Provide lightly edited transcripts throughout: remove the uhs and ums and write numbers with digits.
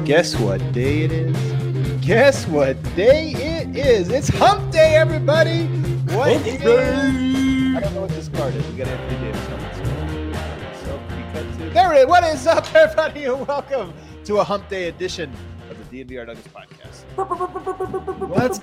Guess what day it is? Guess what day it is? It's Hump Day, everybody! What is? I don't know what this card is. We got Anthony Davis on this. There it is. What is up, everybody, and welcome to a Hump Day edition of the DNVR Nuggets podcast. Let's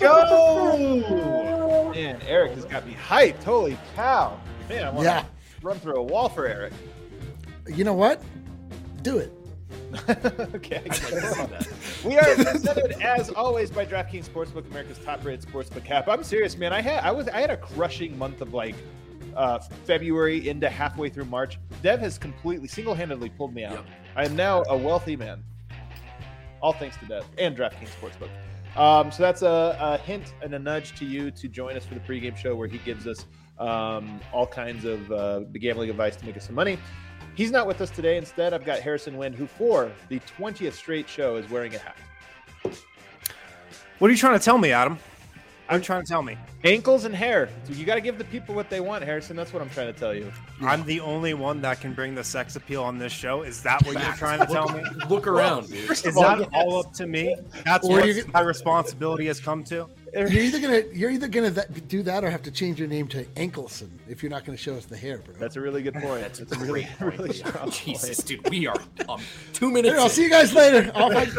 go! Man, Eric has got me hyped. Holy cow! Man, I want to run through a wall for Eric. You know what? Do it. Okay, we are presented as always by DraftKings Sportsbook, America's top-rated sportsbook app. I'm serious, man. I had a crushing month of February into halfway through March. Dev has completely single-handedly pulled me out. Yep. I am now a wealthy man, all thanks to Dev and DraftKings Sportsbook. So that's a hint and a nudge to you to join us for the pregame show where he gives us all kinds of gambling advice to make us some money. He's not with us today. Instead, I've got Harrison Wind, who for the 20th straight show is wearing a hat. What are you trying to tell me, Adam? I'm trying to tell me. Ankles and hair. So you got to give the people what they want, Harrison. That's what I'm trying to tell you. I'm the only one that can bring the sex appeal on this show. Is that what you're trying to tell me? Look around, dude. Is that all up to me? That's what my responsibility has come to? You're either gonna do that or have to change your name to Ankelson if you're not going to show us the hair, bro. That's a really good point. That's a really strong Jesus, point. Dude, we are 2 minutes. I'll see you guys later.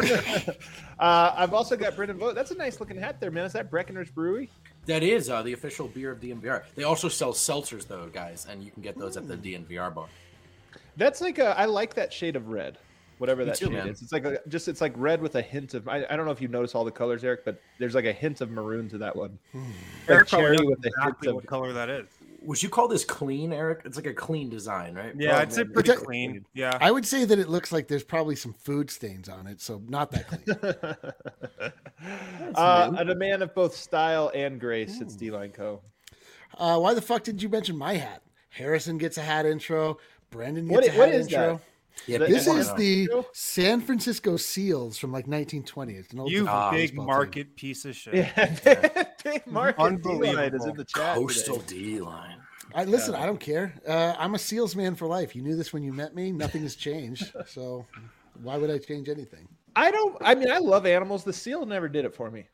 I've also got Brendan Vogt. That's a nice looking hat there, man. Is that Breckenridge Brewery? That is the official beer of DNVR. They also sell seltzers, though, guys, and you can get those at the DNVR bar. That's I like that shade of red. Whatever that shade is. It's like red with a hint of, I don't know if you notice all the colors, Eric, but there's like a hint of maroon to that one. Eric cherry with exactly what color that is. Would you call this clean, Eric? It's like a clean design, right? Yeah, I'd say pretty clean. Yeah. I would say that it looks like there's probably some food stains on it, so not that clean. And a man of both style and grace, it's D-Line Co. Why the fuck did you mention my hat? Harrison gets a hat intro. Brendan gets a hat intro. That? Yeah, this is the San Francisco Seals from like 1920. It's an old big market team. Piece of shit. Yeah, big market D-Line is in the chat. Coastal D-Line. I don't care. I'm a Seals man for life. You knew this when you met me. Nothing has changed. So why would I change anything? I love animals. The seal never did it for me.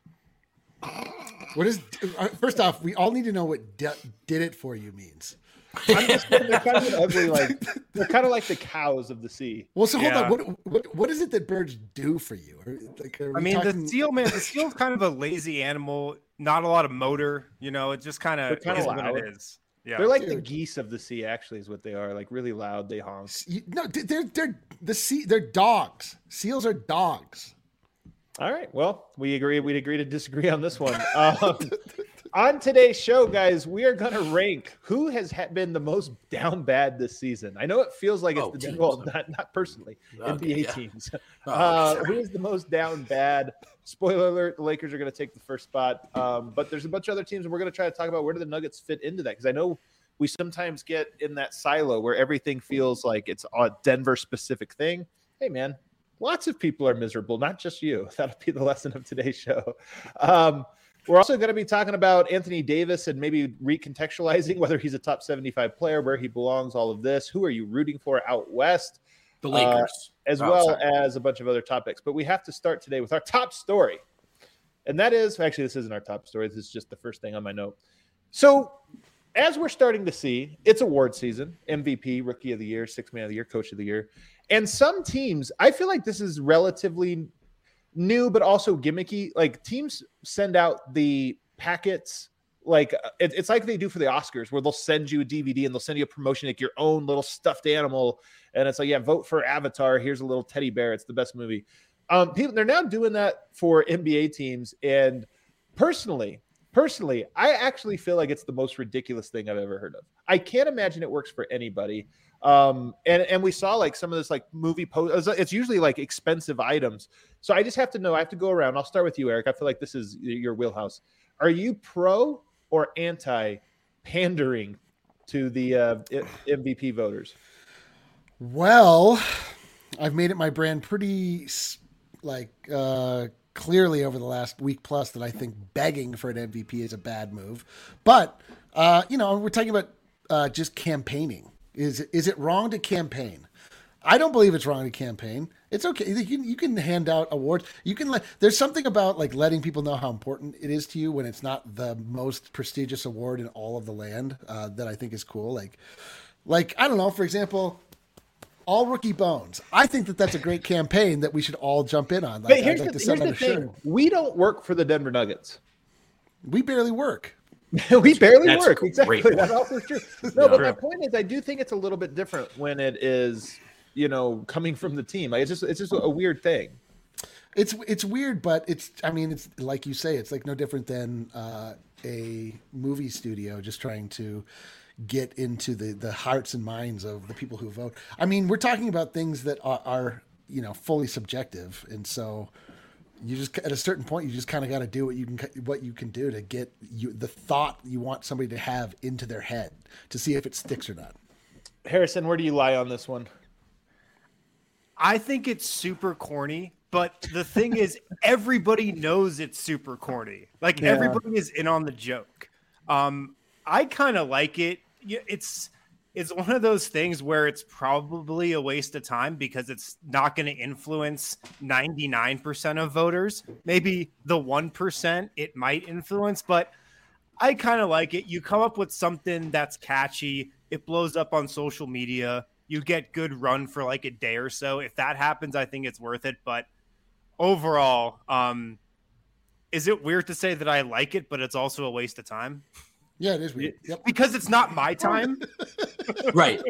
First off, we all need to know what did it for you means. They're kind of ugly, they're kind of like the cows of the sea. Well, so hold on. What is it that birds do for you? The seal, man. The seal's kind of a lazy animal. Not a lot of motor. It just kind of is what it is. Yeah, they're like the geese of the sea. Actually, is what they are. Like really loud. They honk. No, they're the sea. They're dogs. Seals are dogs. All right. Well, we'd agree to disagree on this one. On today's show, guys, we are going to rank who has been the most down bad this season. I know it feels like it's not personally, NBA teams. Who is the most down bad? Spoiler alert, the Lakers are going to take the first spot. But there's a bunch of other teams, and we're going to try to talk about where do the Nuggets fit into that, because I know we sometimes get in that silo where everything feels like it's a Denver-specific thing. Hey, man, lots of people are miserable, not just you. That'll be the lesson of today's show. We're also going to be talking about Anthony Davis and maybe recontextualizing whether he's a top 75 player, where he belongs, all of this. Who are you rooting for out west? The Lakers. As a bunch of other topics. But we have to start today with our top story. And that is, actually, this isn't our top story. This is just the first thing on my note. So as we're starting to see, it's award season, MVP, Rookie of the Year, Sixth Man of the Year, Coach of the Year. And some teams, I feel like this is relatively new, but also gimmicky. Like teams send out the packets, it's like they do for the Oscars, where they'll send you a DVD and they'll send you a promotion, like your own little stuffed animal. And it's like, vote for Avatar. Here's a little teddy bear. It's the best movie. They're now doing that for NBA teams. And personally, I actually feel like it's the most ridiculous thing I've ever heard of. I can't imagine it works for anybody. And we saw some of this movie post. It's usually expensive items. So I just have to know. I have to go around. I'll start with you, Eric. I feel like this is your wheelhouse. Are you pro or anti pandering to the MVP voters? Well, I've made it my brand pretty clearly over the last week plus that I think begging for an MVP is a bad move. But we're talking about just campaigning. Is it wrong to campaign? I don't believe it's wrong to campaign. It's okay. You can hand out awards. You can there's something about like letting people know how important it is to you when it's not the most prestigious award in all of the land that I think is cool. Like I don't know, for example, All Rookie Bones. I think that's a great campaign that we should all jump in on. But here's the thing. We don't work for the Denver Nuggets. We barely work. We barely work. Exactly. That's also true. No, but my point is I do think it's a little bit different when it is, coming from the team. Like, it's just a weird thing. It's weird, but it's like you say, it's like no different than a movie studio just trying to get into the hearts and minds of the people who vote. I mean, we're talking about things that are fully subjective, and so you just at a certain point you just kind of got to do what you can do to get the thought you want somebody to have into their head to see if it sticks or not. Harrison, where do you lie on this one? I think it's super corny, but the thing is, everybody knows it's super corny. Like everybody is in on the joke. I kind of like it. It's one of those things where it's probably a waste of time because it's not going to influence 99% of voters. Maybe the 1% it might influence, but I kind of like it. You come up with something that's catchy. It blows up on social media. You get good run for like a day or so. If that happens, I think it's worth it. But overall, is it weird to say that I like it, but it's also a waste of time? Yeah, it is weird. Yep. Because it's not my time. Right.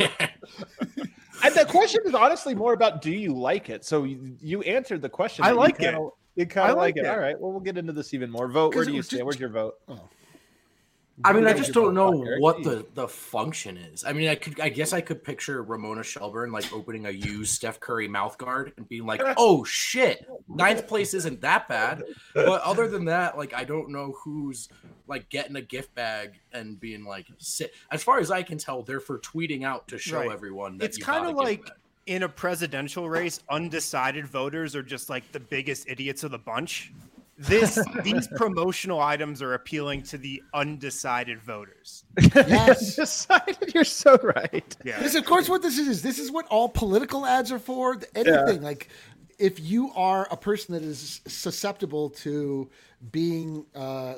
And the question is honestly more about, do you like it? So you answered the question. I like it. You kind of like it. All right. Well, we'll get into this even more. Vote. Where do you stand? Where's your vote? Oh. I mean, I just don't know what the function is. I mean, I guess I could picture Ramona Shelburne like opening a used Steph Curry mouth guard and being like, "Oh shit, 9th place isn't that bad." But other than that, like, I don't know who's like getting a gift bag and being like, "Sit." As far as I can tell, they're for tweeting out to show everyone that it's kind of like in a presidential race, undecided voters are just like the biggest idiots of the bunch. These promotional items are appealing to the undecided voters. Yes. Undecided, you're so right. Yeah. This is, of course, what this is. This is what all political ads are for. Anything like if you are a person that is susceptible to being,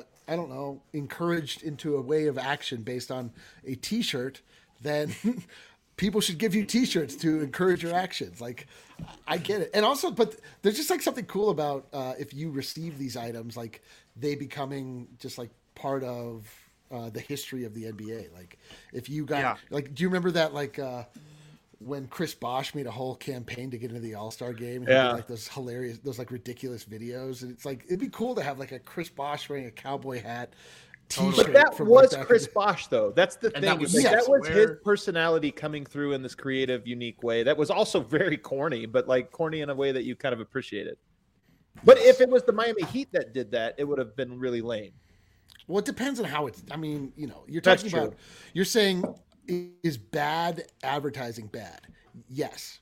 encouraged into a way of action based on a T-shirt, then people should give you T-shirts to encourage your actions. Like, I get it. And also, but there's just like something cool about if you receive these items, like they becoming just like part of the history of the NBA. Like if you got, like, do you remember that, like when Chris Bosh made a whole campaign to get into the All-Star game? And he did, like those like ridiculous videos. And it's like, it'd be cool to have like a Chris Bosh wearing a cowboy hat T-shirt. But that was Chris Bosh, though. That's the thing. That was his personality coming through in this creative, unique way. That was also very corny, but like corny in a way that you kind of appreciated. But if it was the Miami Heat that did that, it would have been really lame. Well, it depends on how it's. I mean, you're talking about. You're saying, is bad advertising bad? Yes.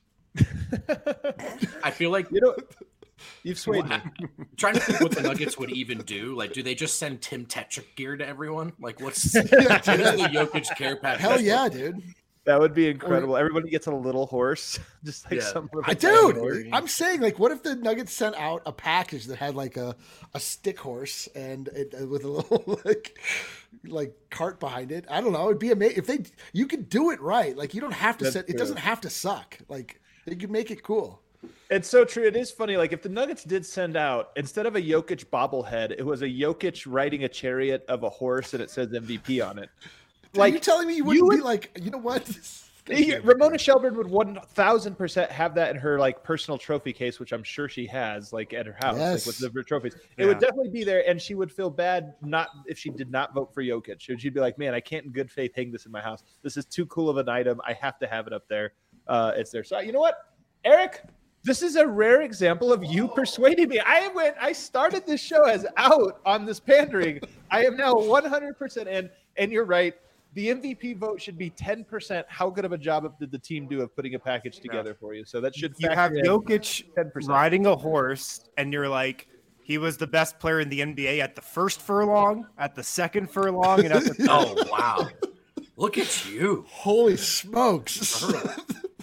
I feel like you've swayed me. I'm trying to think what the Nuggets would even do. Like, do they just send Tim Tetrick gear to everyone? Like, what's the Jokic care package? Hell yeah, dude. That would be incredible. Everybody gets a little horse, just like some. Dude, I'm saying, like, what if the Nuggets sent out a package that had like a stick horse and with a little like cart behind it? I don't know. It'd be amazing if you could do it right. Like, you don't have to it doesn't have to suck. Like, you could make it cool. It's so true. It is funny. Like, if the Nuggets did send out, instead of a Jokic bobblehead, it was a Jokic riding a chariot of a horse and it says MVP on it. Like, you're telling me you wouldn't be like, you know what? Ramona Shelburne would 1,000% have that in her like personal trophy case, which I'm sure she has, like at her house, like with the trophies. It would definitely be there, and she would feel bad if she did not vote for Jokic. She'd be like, "Man, I can't in good faith hang this in my house. This is too cool of an item. I have to have it up there. It's there." So you know what, Eric? This is a rare example of you persuading me. I started this show as out on this pandering. I am now 100% in, and you're right. The MVP vote should be 10%. How good of a job did the team do of putting a package together for you? So that should you have Jokic 10%. Riding a horse, and you're like, he was the best player in the NBA at the first furlong, at the second furlong, and at the oh wow, look at you! Holy smokes!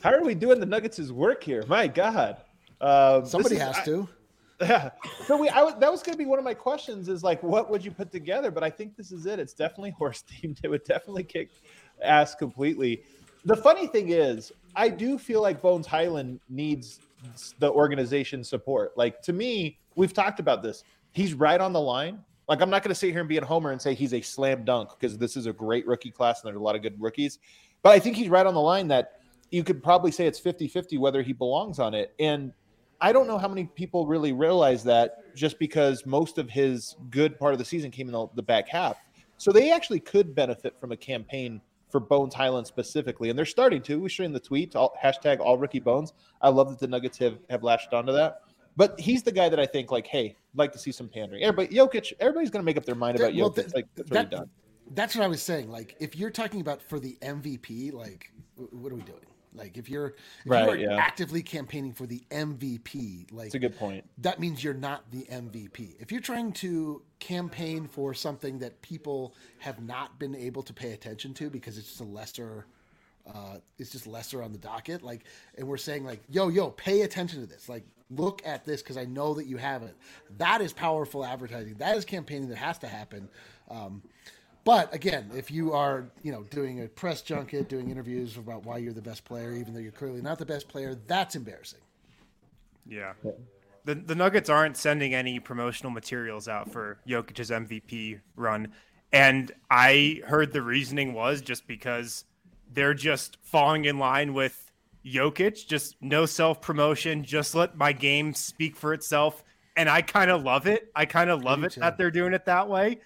How are we doing the Nuggets' work here? My God. Somebody has to. Yeah. So that was going to be one of my questions is like, what would you put together? But I think this is it. It's definitely horse themed. It would definitely kick ass completely. The funny thing is, I do feel like Bones Hyland needs the organization support. Like, to me, we've talked about this. He's right on the line. Like, I'm not going to sit here and be a homer and say he's a slam dunk because this is a great rookie class and there's a lot of good rookies. But I think he's right on the line that you could probably say it's 50-50 whether he belongs on it. And I don't know how many people really realize that just because most of his good part of the season came in the back half. So they actually could benefit from a campaign for Bones Hyland specifically. And they're starting to. We streamed the tweet, hashtag all rookie Bones. I love that the Nuggets have latched onto that. But he's the guy that I think, like, hey, I'd like to see some pandering. Jokic, everybody's going to make up their mind about Jokic. That's already done. That's what I was saying. Like, if you're talking about for the MVP, like, what are we doing? Like, if you're actively campaigning for the MVP, like, that's a good point. That means you're not the MVP. If you're trying to campaign for something that people have not been able to pay attention to because it's just lesser on the docket, like, and we're saying like, yo, pay attention to this. Like, look at this because I know that you haven't. That is powerful advertising. That is campaigning that has to happen. But again, if you are, doing a press junket, doing interviews about why you're the best player, even though you're clearly not the best player, that's embarrassing. Yeah. The Nuggets aren't sending any promotional materials out for Jokic's MVP run. And I heard the reasoning was just because they're just falling in line with Jokic, just no self-promotion, just let my game speak for itself. And I kind of love it. That they're doing it that way.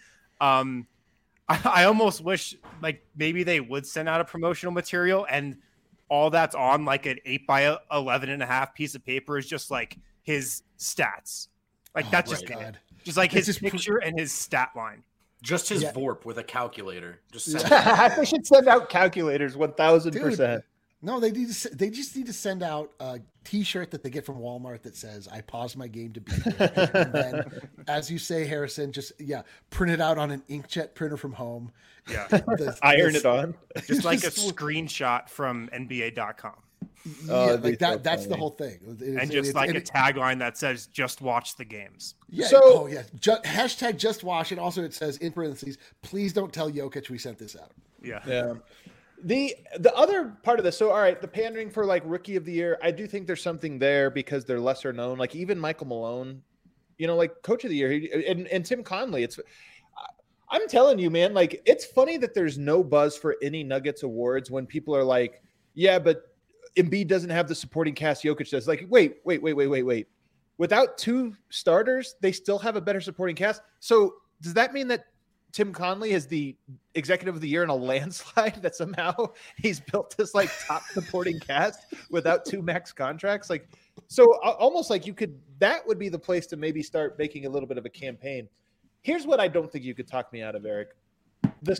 I almost wish like maybe they would send out a promotional material and all that's on like an 8x11.5 piece of paper is just like his stats. Like that's just like his picture and his stat line. Just his VORP with a calculator. Just they should send out calculators 1,000%. No, they just need to send out a T-shirt that they get from Walmart that says "I paused my game to be here," and then, as you say, Harrison, just print it out on an inkjet printer from home. Yeah, iron it on, just like a screenshot from NBA.com. Like that. That's the whole thing, and just like a tagline that says "Just watch the games." Yeah. Hashtag Just Watch. And also it says in parentheses, "Please don't tell Jokic we sent this out." Yeah. The other part of this, so all right, the pandering for like rookie of the year, I do think there's something there because they're lesser known. Like even Michael Malone, like coach of the year, and Tim Conley. I'm telling you, man, like it's funny that there's no buzz for any Nuggets awards when people are like, yeah, but Embiid doesn't have the supporting cast Jokic does. Like, wait. Without two starters, they still have a better supporting cast. So does that mean that Tim Conley is the executive of the year in a landslide that somehow he's built this like top supporting cast without two max contracts? Like, so almost like that would be the place to maybe start making a little bit of a campaign. Here's what I don't think you could talk me out of, Eric. The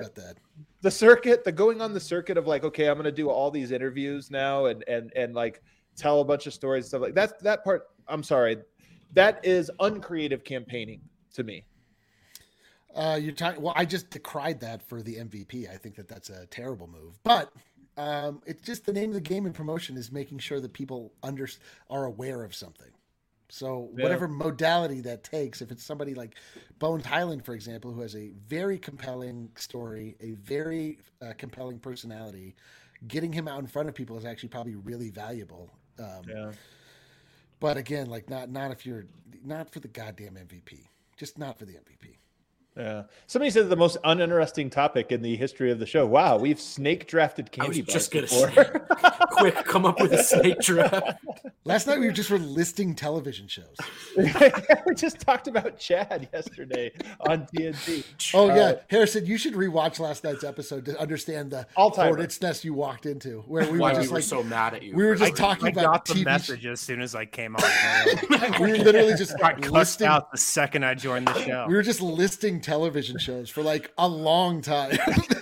going on the circuit of like, okay, I'm going to do all these interviews now and like tell a bunch of stories and stuff like that part. I'm sorry. That is uncreative campaigning to me. You're talking. Well, I just decried that for the MVP. I think that's a terrible move. But it's just the name of the game in promotion is making sure that people are aware of something. So whatever modality that takes, if it's somebody like Bones Hyland, for example, who has a very compelling story, a very compelling personality, getting him out in front of people is actually probably really valuable. But again, like not if you're not for the goddamn MVP, just not for the MVP. Yeah. Somebody said the most uninteresting topic in the history of the show. Wow, we've snake drafted candy bars before. Quick, come up with a snake draft. Last night we were listing television shows. We just talked about Chad yesterday on TNT. Oh yeah, Harrison, you should rewatch last night's episode to understand the hornet's nest you walked into, where we were so mad at you. We were just talking about. I got the message as soon as I came on. We were literally just listing out the second I joined the show. We were just listing television shows for like a long time.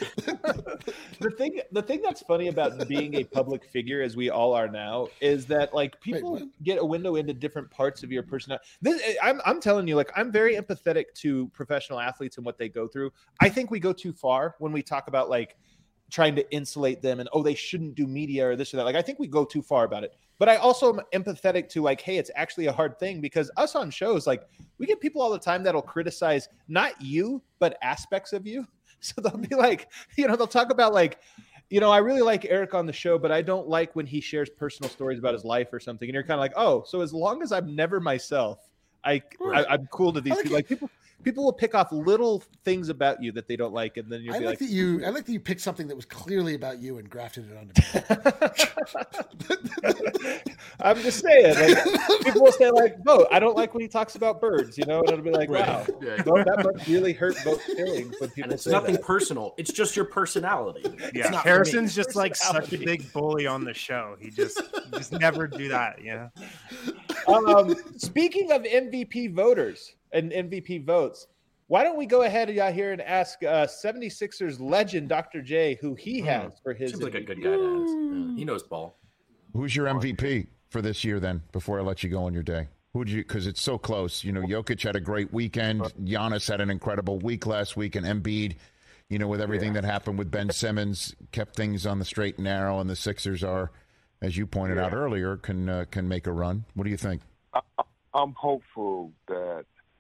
The thing that's funny about being a public figure, as we all are now, is that like people get a window into different parts of your personality. I'm telling you, like I'm very empathetic to professional athletes and what they go through. I think we go too far when we talk about like trying to insulate them and, they shouldn't do media or this or that. Like, I think we go too far about it. But I also am empathetic to like, hey, it's actually a hard thing, because us on shows, like, we get people all the time that'll criticize not you, but aspects of you. So they'll be like, they'll talk about like, I really like Eric on the show, but I don't like when he shares personal stories about his life or something. And you're kind of like, so as long as I'm never myself, I'm cool to these people. Like, people will pick off little things about you that they don't like, and then you'll be like, I like that you picked something that was clearly about you and grafted it onto me. I'm just saying, like, people will say like, I don't like when he talks about birds, and it'll be like, wow, that must really hurt both feelings when people. And it's say nothing that. personal; it's just your personality. Yeah, Harrison's just like such a big bully on the show. He just never do that. Yeah. Speaking of MVP voters and MVP votes, why don't we go ahead here and ask 76ers legend Dr. J who he has for his Seems like MVP. a good guy to ask. Yeah, he knows ball. Who's your MVP for this year then, before I let you go on your day? Because it's so close. Jokic had a great weekend. Giannis had an incredible week last week, and Embiid, with everything that happened with Ben Simmons, kept things on the straight and narrow, and the Sixers are, as you pointed out earlier, can make a run. What do you think? I'm hopeful that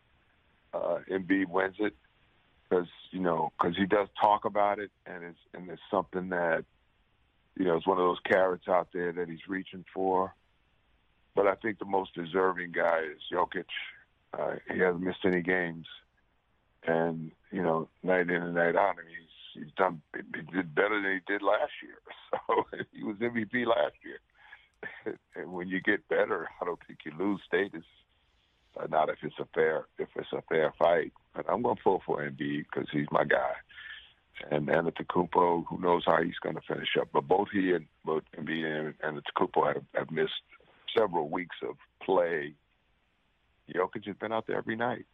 Embiid wins it, because he does talk about it, and it's something that it's one of those carrots out there that he's reaching for. But I think the most deserving guy is Jokic. He hasn't missed any games, and night in and night out, he did better than he did last year. So he was MVP last year. And when you get better, I don't think you lose status. Not if it's a fair fight. But I'm going to pull for Embiid because he's my guy. And Antetokounmpo, who knows how he's going to finish up. But both Embiid and Antetokounmpo have missed several weeks of play. Jokic has been out there every night.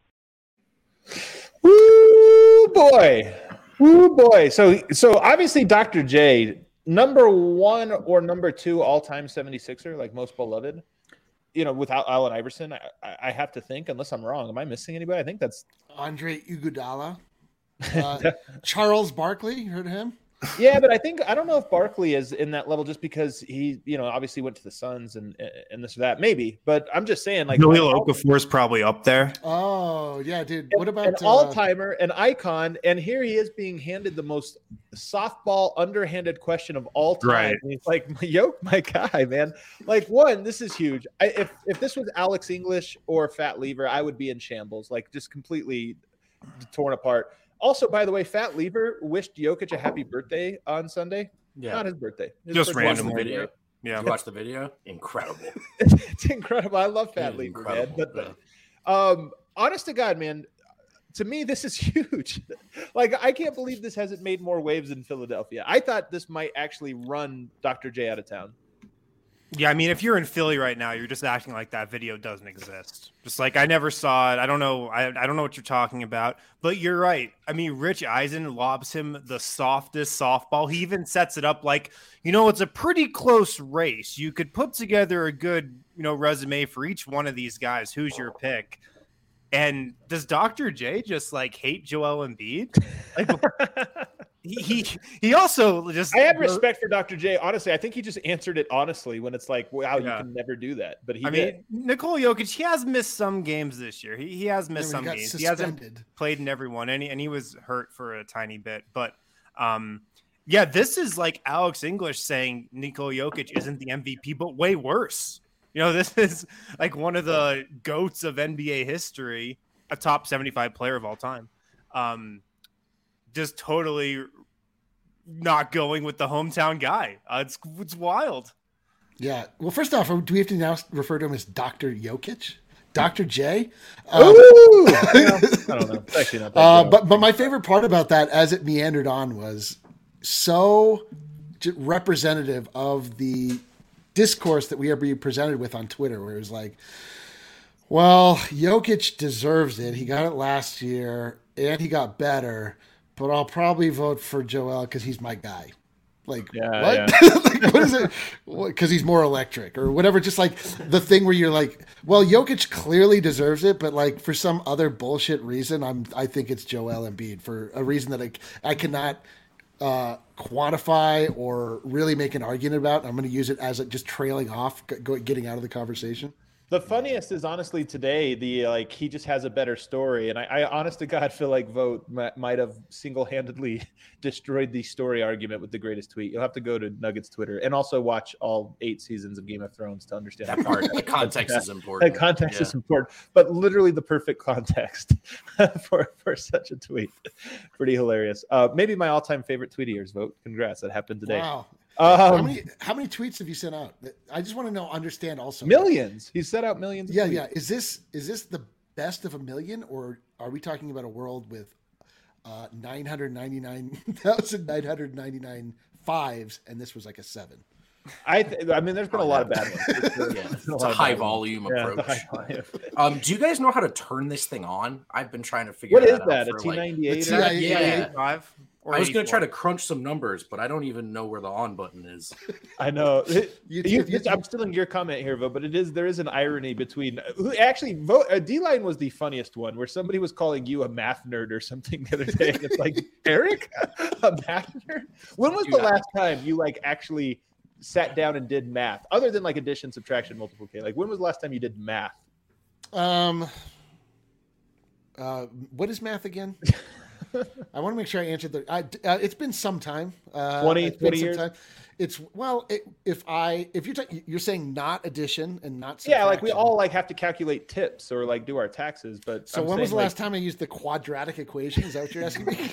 Woo boy. Woo boy. So obviously Dr. J, number 1 or number 2 all-time 76er, like most beloved. Without Allen Iverson, I have to think, unless I'm wrong. Am I missing anybody? I think that's Andre Iguodala. Charles Barkley, you heard of him? Yeah, but I don't know if Barkley is in that level just because he, obviously went to the Suns and this or that, maybe. But I'm just saying, like, Jahlil Okafor is probably up there. Oh yeah, dude. What about an all-timer, an icon? And here he is being handed the most softball, underhanded question of all time. Right. And he's like, my guy, man. Like, one, this is huge. If this was Alex English or Fat Lever, I would be in shambles, like just completely torn apart. Also, by the way, Fat Lever wished Jokic a happy birthday on Sunday. Yeah. Not his birthday. Just random video. Yeah. You watch the video? Incredible. It's incredible. I love Fat Lever, man. But honest to God, man, to me, this is huge. Like, I can't believe this hasn't made more waves in Philadelphia. I thought this might actually run Dr. J out of town. Yeah, I mean, if you're in Philly right now, you're just acting like that video doesn't exist. Just like, I never saw it. I don't know. I don't know what you're talking about. But you're right. I mean, Rich Eisen lobs him the softest softball. He even sets it up like, it's a pretty close race. You could put together a good, resume for each one of these guys. Who's your pick? And does Dr. J just like hate Joel Embiid? Like, he also just. I have respect for Dr. J. Honestly, I think he just answered it honestly when it's like, wow, you can never do that. But he did. Nikola Jokic, he has missed some games this year. He has missed some games. Suspended. He hasn't played in every one, and he was hurt for a tiny bit. But this is like Alex English saying Nikola Jokic isn't the MVP, but way worse. This is like one of the GOATs of NBA history, a top 75 player of all time. Just totally not going with the hometown guy. It's wild. Yeah. Well, first off, do we have to now refer to him as Dr. Jokic? Dr. J? Ooh! I don't know. It's actually not that but my favorite part about that, as it meandered on, was so representative of the discourse that we are being presented with on Twitter, where it was like, well, Jokic deserves it. He got it last year, and he got better, but I'll probably vote for Joel because he's my guy. Like, what? Yeah. Like, what is it? Because he's more electric or whatever. Just like the thing where you're like, well, Jokic clearly deserves it, but like for some other bullshit reason, I think it's Joel Embiid for a reason that I cannot quantify or really make an argument about. I'm going to use it as just trailing off, getting out of the conversation. The funniest is honestly today, he just has a better story. And I honest to God feel like Vogt might have single-handedly destroyed the story argument with the greatest tweet. You'll have to go to Nuggets Twitter and also watch all 8 seasons of Game of Thrones to understand that part. The context is important. The context is important, but literally the perfect context for such a tweet. Pretty hilarious. Maybe my all-time favorite tweet of yours, Vogt. Congrats. That happened today. Wow. How many tweets have you sent out? I just want to understand also. Millions. He sent out millions. Yeah. Is this the best of a million, or are we talking about a world with 999,999 fives, and this was like a 7? I mean, there's been a lot of bad ones. It's a high volume approach. Do you guys know how to turn this thing on? I've been trying to figure what that out. What is that? A T98? Yeah. I was going to try to crunch some numbers, but I don't even know where the on button is. I know. I'm stealing your comment here, Vogt, but there is an irony between D-Line was the funniest one, where somebody was calling you a math nerd or something the other day. And it's like, Eric, a math nerd? When was the last time you actually sat down and did math, other than addition, subtraction, multiplication? When was the last time you did math? What is math again? I want to make sure I answered it's been some time. 20 years. It's if you're saying not addition and not subtraction. We all have to calculate tips or do our taxes. But so when was the last time I used the quadratic equation? Is that what you're asking me?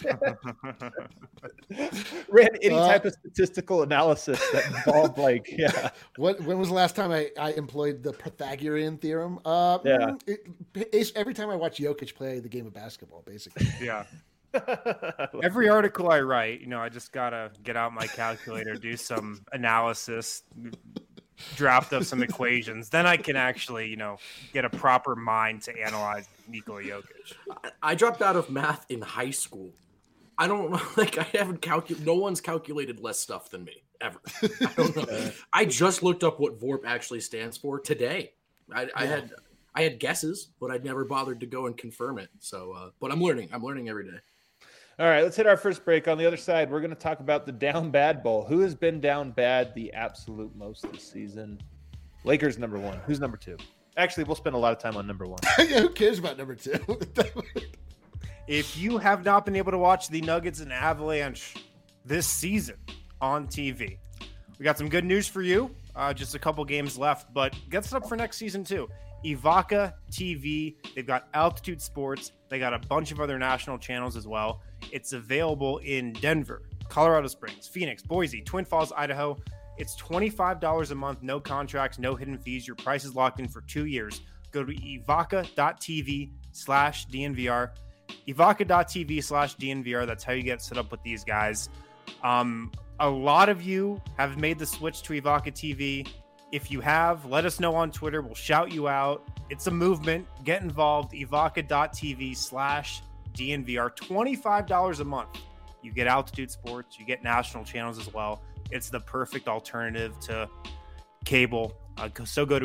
Ran any type of statistical analysis that involved When was the last time I employed the Pythagorean theorem? Every time I watch Jokic play the game of basketball, basically. Yeah. Every article I write, I just gotta get out my calculator, do some analysis, draft up some equations. Then I can actually, get a proper mind to analyze Nikola Jokic. I dropped out of math in high school. I don't know, I haven't calculated. No one's calculated less stuff than me ever. I don't know. I just looked up what VORP actually stands for today. I had guesses, but I'd never bothered to go and confirm it. So, but I'm learning. I'm learning every day. All right, let's hit our first break. On the other side, we're going to talk about the down bad bowl. Who has been down bad the absolute most this season? Lakers number 1. Who's number 2? Actually, we'll spend a lot of time on number 1. Who cares about number 2? If you have not been able to watch the Nuggets and Avalanche this season on TV, we got some good news for you. Just a couple games left, but get set up for next season too. Evoca TV. They've got Altitude Sports. They got a bunch of other national channels as well. It's available in Denver, Colorado Springs, Phoenix, Boise, Twin Falls, Idaho. It's $25 a month, no contracts, no hidden fees. Your price is locked in for 2 years. Go to evoca.tv/DNVR. Evoca.tv/DNVR. That's how you get set up with these guys. A lot of you have made the switch to Evoca TV. If you have, let us know on Twitter. We'll shout you out. It's a movement. Get involved. Evoca.tv/DNVR. $25 a month. You get Altitude Sports. You get national channels as well. It's the perfect alternative to cable. So go to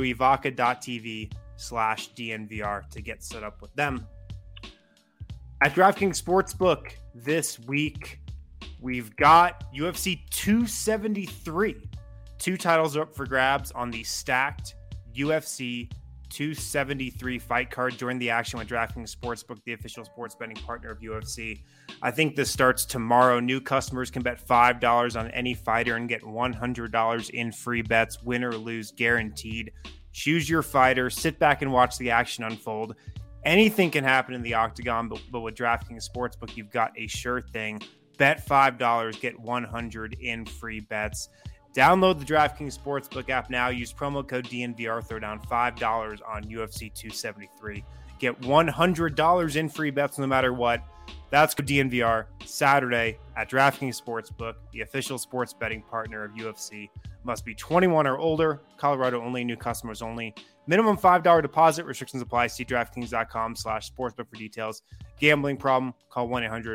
evoca.tv/DNVR to get set up with them. At DraftKings Sportsbook this week, we've got UFC 273. 2 titles are up for grabs on the stacked UFC 273 fight card. Join the action with DraftKings Sportsbook, the official sports betting partner of UFC. I think this starts tomorrow. New customers can bet $5 on any fighter and get $100 in free bets, win or lose, guaranteed. Choose your fighter, sit back and watch the action unfold. Anything can happen in the octagon, but with DraftKings Sportsbook, you've got a sure thing. Bet $5, get $100 in free bets. Download the DraftKings Sportsbook app now. Use promo code DNVR. Throw down $5 on UFC 273. Get $100 in free bets no matter what. That's code DNVR Saturday at DraftKings Sportsbook, the official sports betting partner of UFC. Must be 21 or older. Colorado only. New customers only. Minimum $5 deposit. Restrictions apply. See DraftKings.com/sportsbook for details. Gambling problem? Call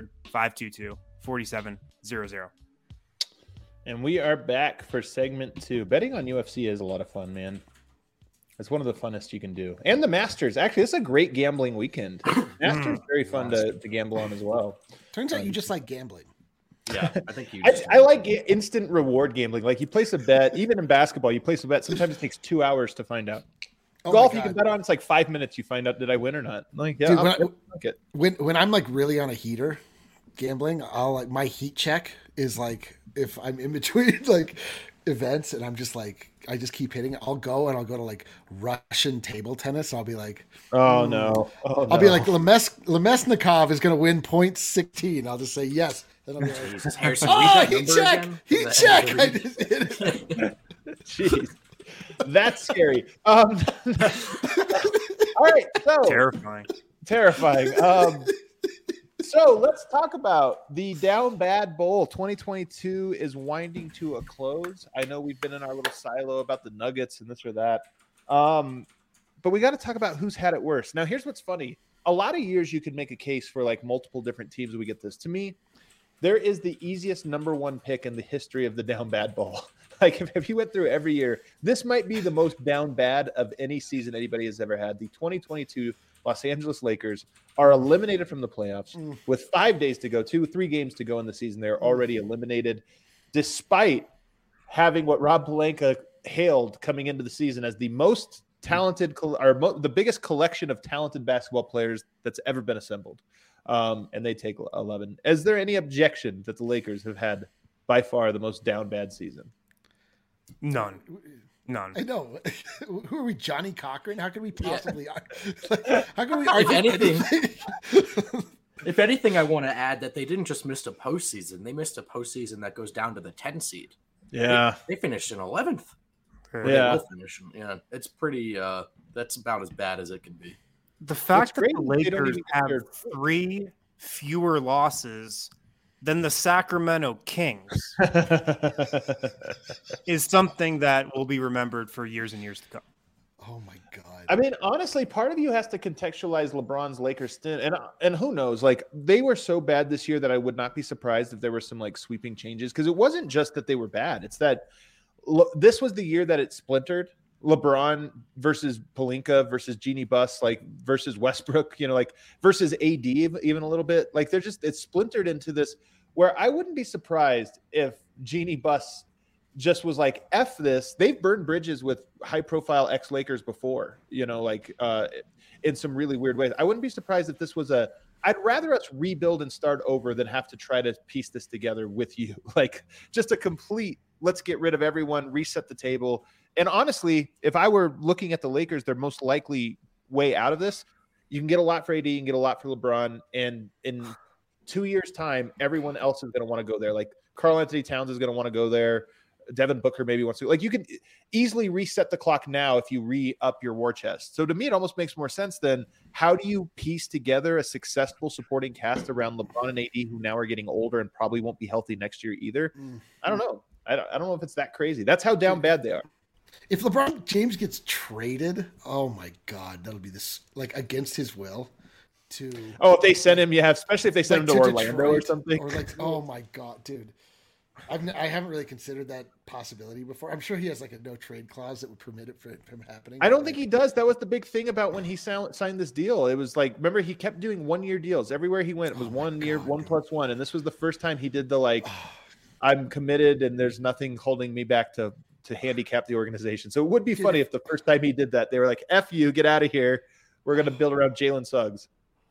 1-800-522-4700. And we are back for segment 2. Betting on UFC is a lot of fun, man. It's one of the funnest you can do. And the Masters. Actually, it's a great gambling weekend. Masters very fun to gamble on as well. Turns out you just like gambling. Yeah, I think you. I like instant reward gambling. Like you place a bet, even in basketball, you place a bet. Sometimes it takes 2 hours to find out. Golf, you can bet on. It's like 5 minutes. You find out did I win or not. Like, yeah, dude, when I'm like really on a heater gambling, I'll like my heat check is like if I'm in between like events and I'm just like I just keep hitting. I'll go to like Russian table tennis. I'll be like, oh no. I'll be like Lemesnikov is going to win point 16. I'll just say yes. Then I'll be like, heat check. I just hit it. Jeez. That's scary. All right, so terrifying. So let's talk about the Down Bad Bowl. 2022 is winding to a close. I know we've been in our little silo about the Nuggets and this or that, but we got to talk about who's had it worse. Now, here's what's funny: a lot of years you could make a case for like multiple different teams. We get this. To me, there is the easiest number one pick in the history of the Down Bad Bowl. Like if you went through every year, this might be the most down bad of any season anybody has ever had. The 2022 Los Angeles Lakers are eliminated from the playoffs with 5 days to go, 3 games to go in the season. They're already eliminated, despite having what Rob Pelinka hailed coming into the season as the most talented the biggest collection of talented basketball players that's ever been assembled. And they take 11. Is there any objection that the Lakers have had by far the most down bad season? None. I know. Who are we, Johnny Cochran? How can we possibly? How can we? If anything, I want to add that they didn't just miss a postseason; they missed a postseason that goes down to the 10 seed. Yeah, they finished in 11th. Yeah, it's pretty. That's about as bad as it can be. The fact that the Lakers have 3 fewer losses than the Sacramento Kings is something that will be remembered for years and years to come. Oh my God. I mean, honestly, part of you has to contextualize LeBron's Lakers stint, and who knows? Like they were so bad this year that I would not be surprised if there were some like sweeping changes, because it wasn't just that they were bad. It's that this was the year that it splintered. LeBron versus Pelinka versus Jeannie Buss, like versus Westbrook, like versus AD even a little bit. Like it's splintered into this where I wouldn't be surprised if Jeannie Buss just was like, F this. They've burned bridges with high profile ex-Lakers before, in some really weird ways. I wouldn't be surprised if this was I'd rather us rebuild and start over than have to try to piece this together with you. Like just a complete, let's get rid of everyone, reset the table. And honestly, if I were looking at the Lakers, their most likely way out of this, you can get a lot for AD, you can get a lot for LeBron. And in 2 years' time, everyone else is going to want to go there. Like Karl Anthony Towns is going to want to go there. Devin Booker maybe wants to. Like you can easily reset the clock now if you re-up your war chest. So to me, it almost makes more sense than how do you piece together a successful supporting cast around LeBron and AD, who now are getting older and probably won't be healthy next year either. I don't know. I don't know if it's that crazy. That's how down bad they are. If LeBron James gets traded, oh my God, that'll be this like against his will. If they send him, especially if they send him to Orlando Detroit, or something. Or like, oh my God, dude. I haven't really considered that possibility before. I'm sure he has like a no trade clause that would permit it from happening. I don't think he does. That was the big thing about when he signed this deal. It was like, remember, he kept doing 1 year deals everywhere he went. It was 1 year, 1+1, and this was the first time he did the like, I'm committed and there's nothing holding me back to handicap the organization. So it would be funny if the first time he did that, they were like, F you, get out of here. We're going to build around Jalen Suggs.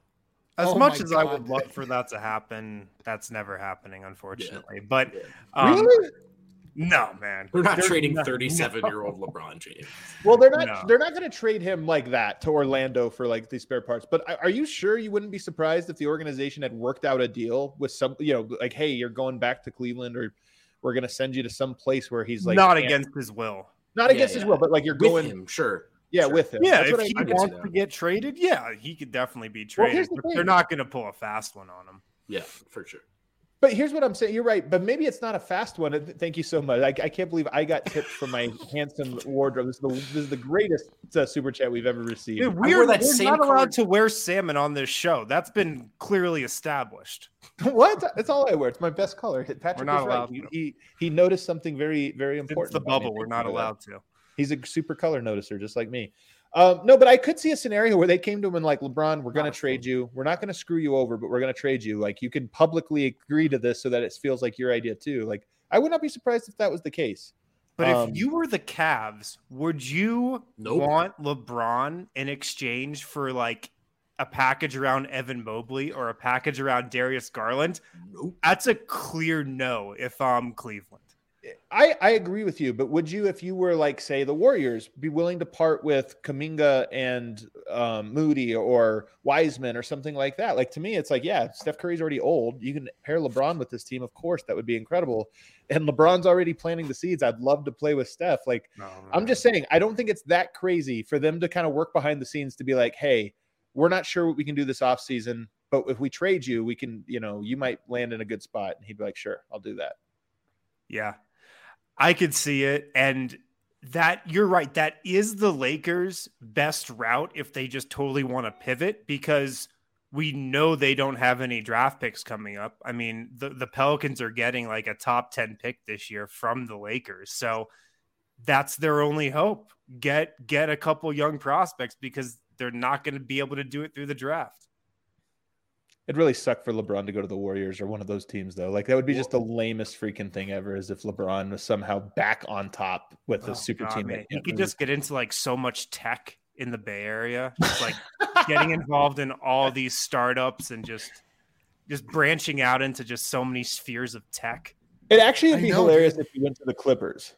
As much as I would love for that to happen, that's never happening, unfortunately. But really? No, man. They're not trading 37-year-old LeBron James. Well, they're not. No. They're not going to trade him like that to Orlando for like these spare parts. But are you sure you wouldn't be surprised if the organization had worked out a deal with some, like, hey, you're going back to Cleveland, or we're going to send you to some place where he's like not against his will, not against his will, but like you're with going him, sure. Yeah, sure. With him. Yeah, if he wants to get traded, he could definitely be traded. But they're not going to pull a fast one on him. Yeah, for sure. But here's what I'm saying. You're right, but maybe it's not a fast one. Thank you so much. I can't believe I got tips from my handsome wardrobe. This is the greatest super chat we've ever received. Dude, we're not allowed to wear salmon on this show. That's been clearly established. What? That's all I wear. It's my best color. Patrick we're not allowed right. He noticed something very, very important. It's the bubble. We're not allowed to. He's a super color noticer, just like me. No, but I could see a scenario where they came to him and like, LeBron, we're going to trade you. We're not going to screw you over, but we're going to trade you. Like, you can publicly agree to this so that it feels like your idea too. Like, I would not be surprised if that was the case. But if you were the Cavs, would you want LeBron in exchange for like a package around Evan Mobley or a package around Darius Garland? Nope. That's a clear no if I'm Cleveland. I agree with you, but would you, if you were like, say, the Warriors, be willing to part with Kuminga and Moody or Wiseman or something like that? Like, to me, it's like, yeah, Steph Curry's already old. You can pair LeBron with this team. Of course, that would be incredible. And LeBron's already planting the seeds. I'd love to play with Steph. Like, I'm just saying, I don't think it's that crazy for them to kind of work behind the scenes to be like, hey, we're not sure what we can do this offseason, but if we trade you, we can, you might land in a good spot. And he'd be like, sure, I'll do that. Yeah. I could see it. And that you're right. That is the Lakers' best route if they just totally want to pivot, because we know they don't have any draft picks coming up. I mean, the Pelicans are getting like a top 10 pick this year from the Lakers. So that's their only hope. Get a couple young prospects, because they're not going to be able to do it through the draft. It'd really suck for LeBron to go to the Warriors or one of those teams, though. Like, that would be just the lamest freaking thing ever, as if LeBron was somehow back on top with a super team. Man. He could just get into like so much tech in the Bay Area, just like getting involved in all these startups and just branching out into just so many spheres of tech. It actually would be hilarious if he went to the Clippers.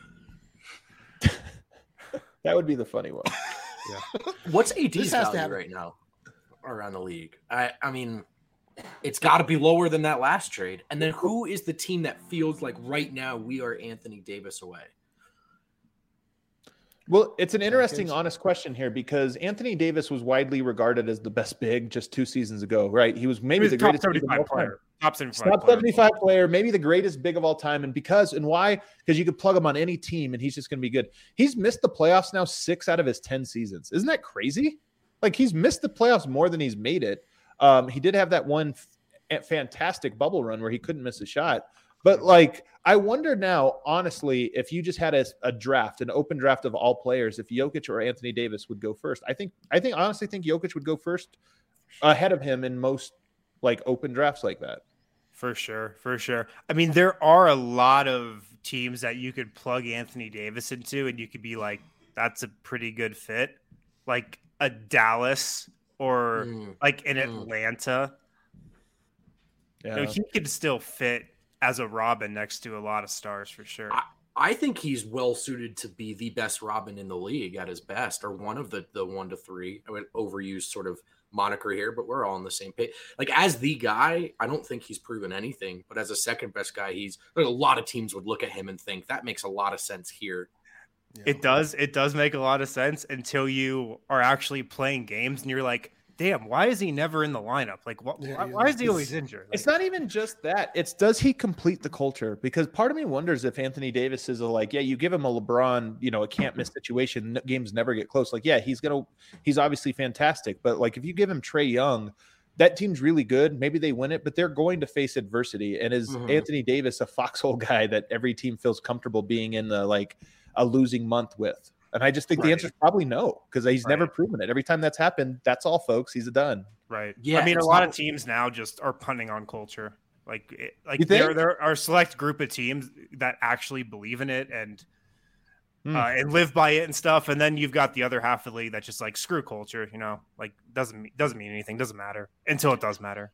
That would be the funny one. Yeah. What's AD's value right now around the league? I mean, it's got to be lower than that last trade. And then who is the team that feels like right now we are Anthony Davis away? Well, it's an interesting, honest question here, because Anthony Davis was widely regarded as the best big just 2 seasons ago, right? He was maybe the greatest big of all time. Top 75 player, maybe the greatest big of all time. And why? Because you could plug him on any team and he's just going to be good. He's missed the playoffs now 6 out of his 10 seasons. Isn't that crazy? Like, he's missed the playoffs more than he's made it. He did have that one fantastic bubble run where he couldn't miss a shot. But like, I wonder now, honestly, if you just had a draft, an open draft of all players, if Jokic or Anthony Davis would go first. I honestly think Jokic would go first ahead of him in most like open drafts like that. For sure. I mean, there are a lot of teams that you could plug Anthony Davis into and you could be like, that's a pretty good fit. Like a Dallas or like an Atlanta. Yeah. He could still fit as a Robin next to a lot of stars for sure. I think he's well suited to be the best Robin in the league at his best, or one of the 1 to 3. I would overuse sort of moniker here, but we're all on the same page. Like, as the guy, I don't think he's proven anything, but as a second best guy, a lot of teams would look at him and think that makes a lot of sense here. Yeah. It does make a lot of sense until you are actually playing games and you're like, damn, why is he never in the lineup? Like, why is he always injured? Like, it's not even just that. It's, does he complete the culture? Because part of me wonders if Anthony Davis is you give him a LeBron, a can't miss situation. Games never get close. Like, yeah, he's obviously fantastic. But like, if you give him Trae Young, that team's really good. Maybe they win it, but they're going to face adversity. And is Anthony Davis a foxhole guy that every team feels comfortable being in a losing month with? And I just think the answer is probably no, because he's never proven it. Every time that's happened, that's all, folks. He's a done. Right. Yeah. I mean, a lot of teams now just are punting on culture. There are a select group of teams that actually believe in it and live by it and stuff. And then you've got the other half of the league that's just like, screw culture, like doesn't mean anything, doesn't matter until it does matter.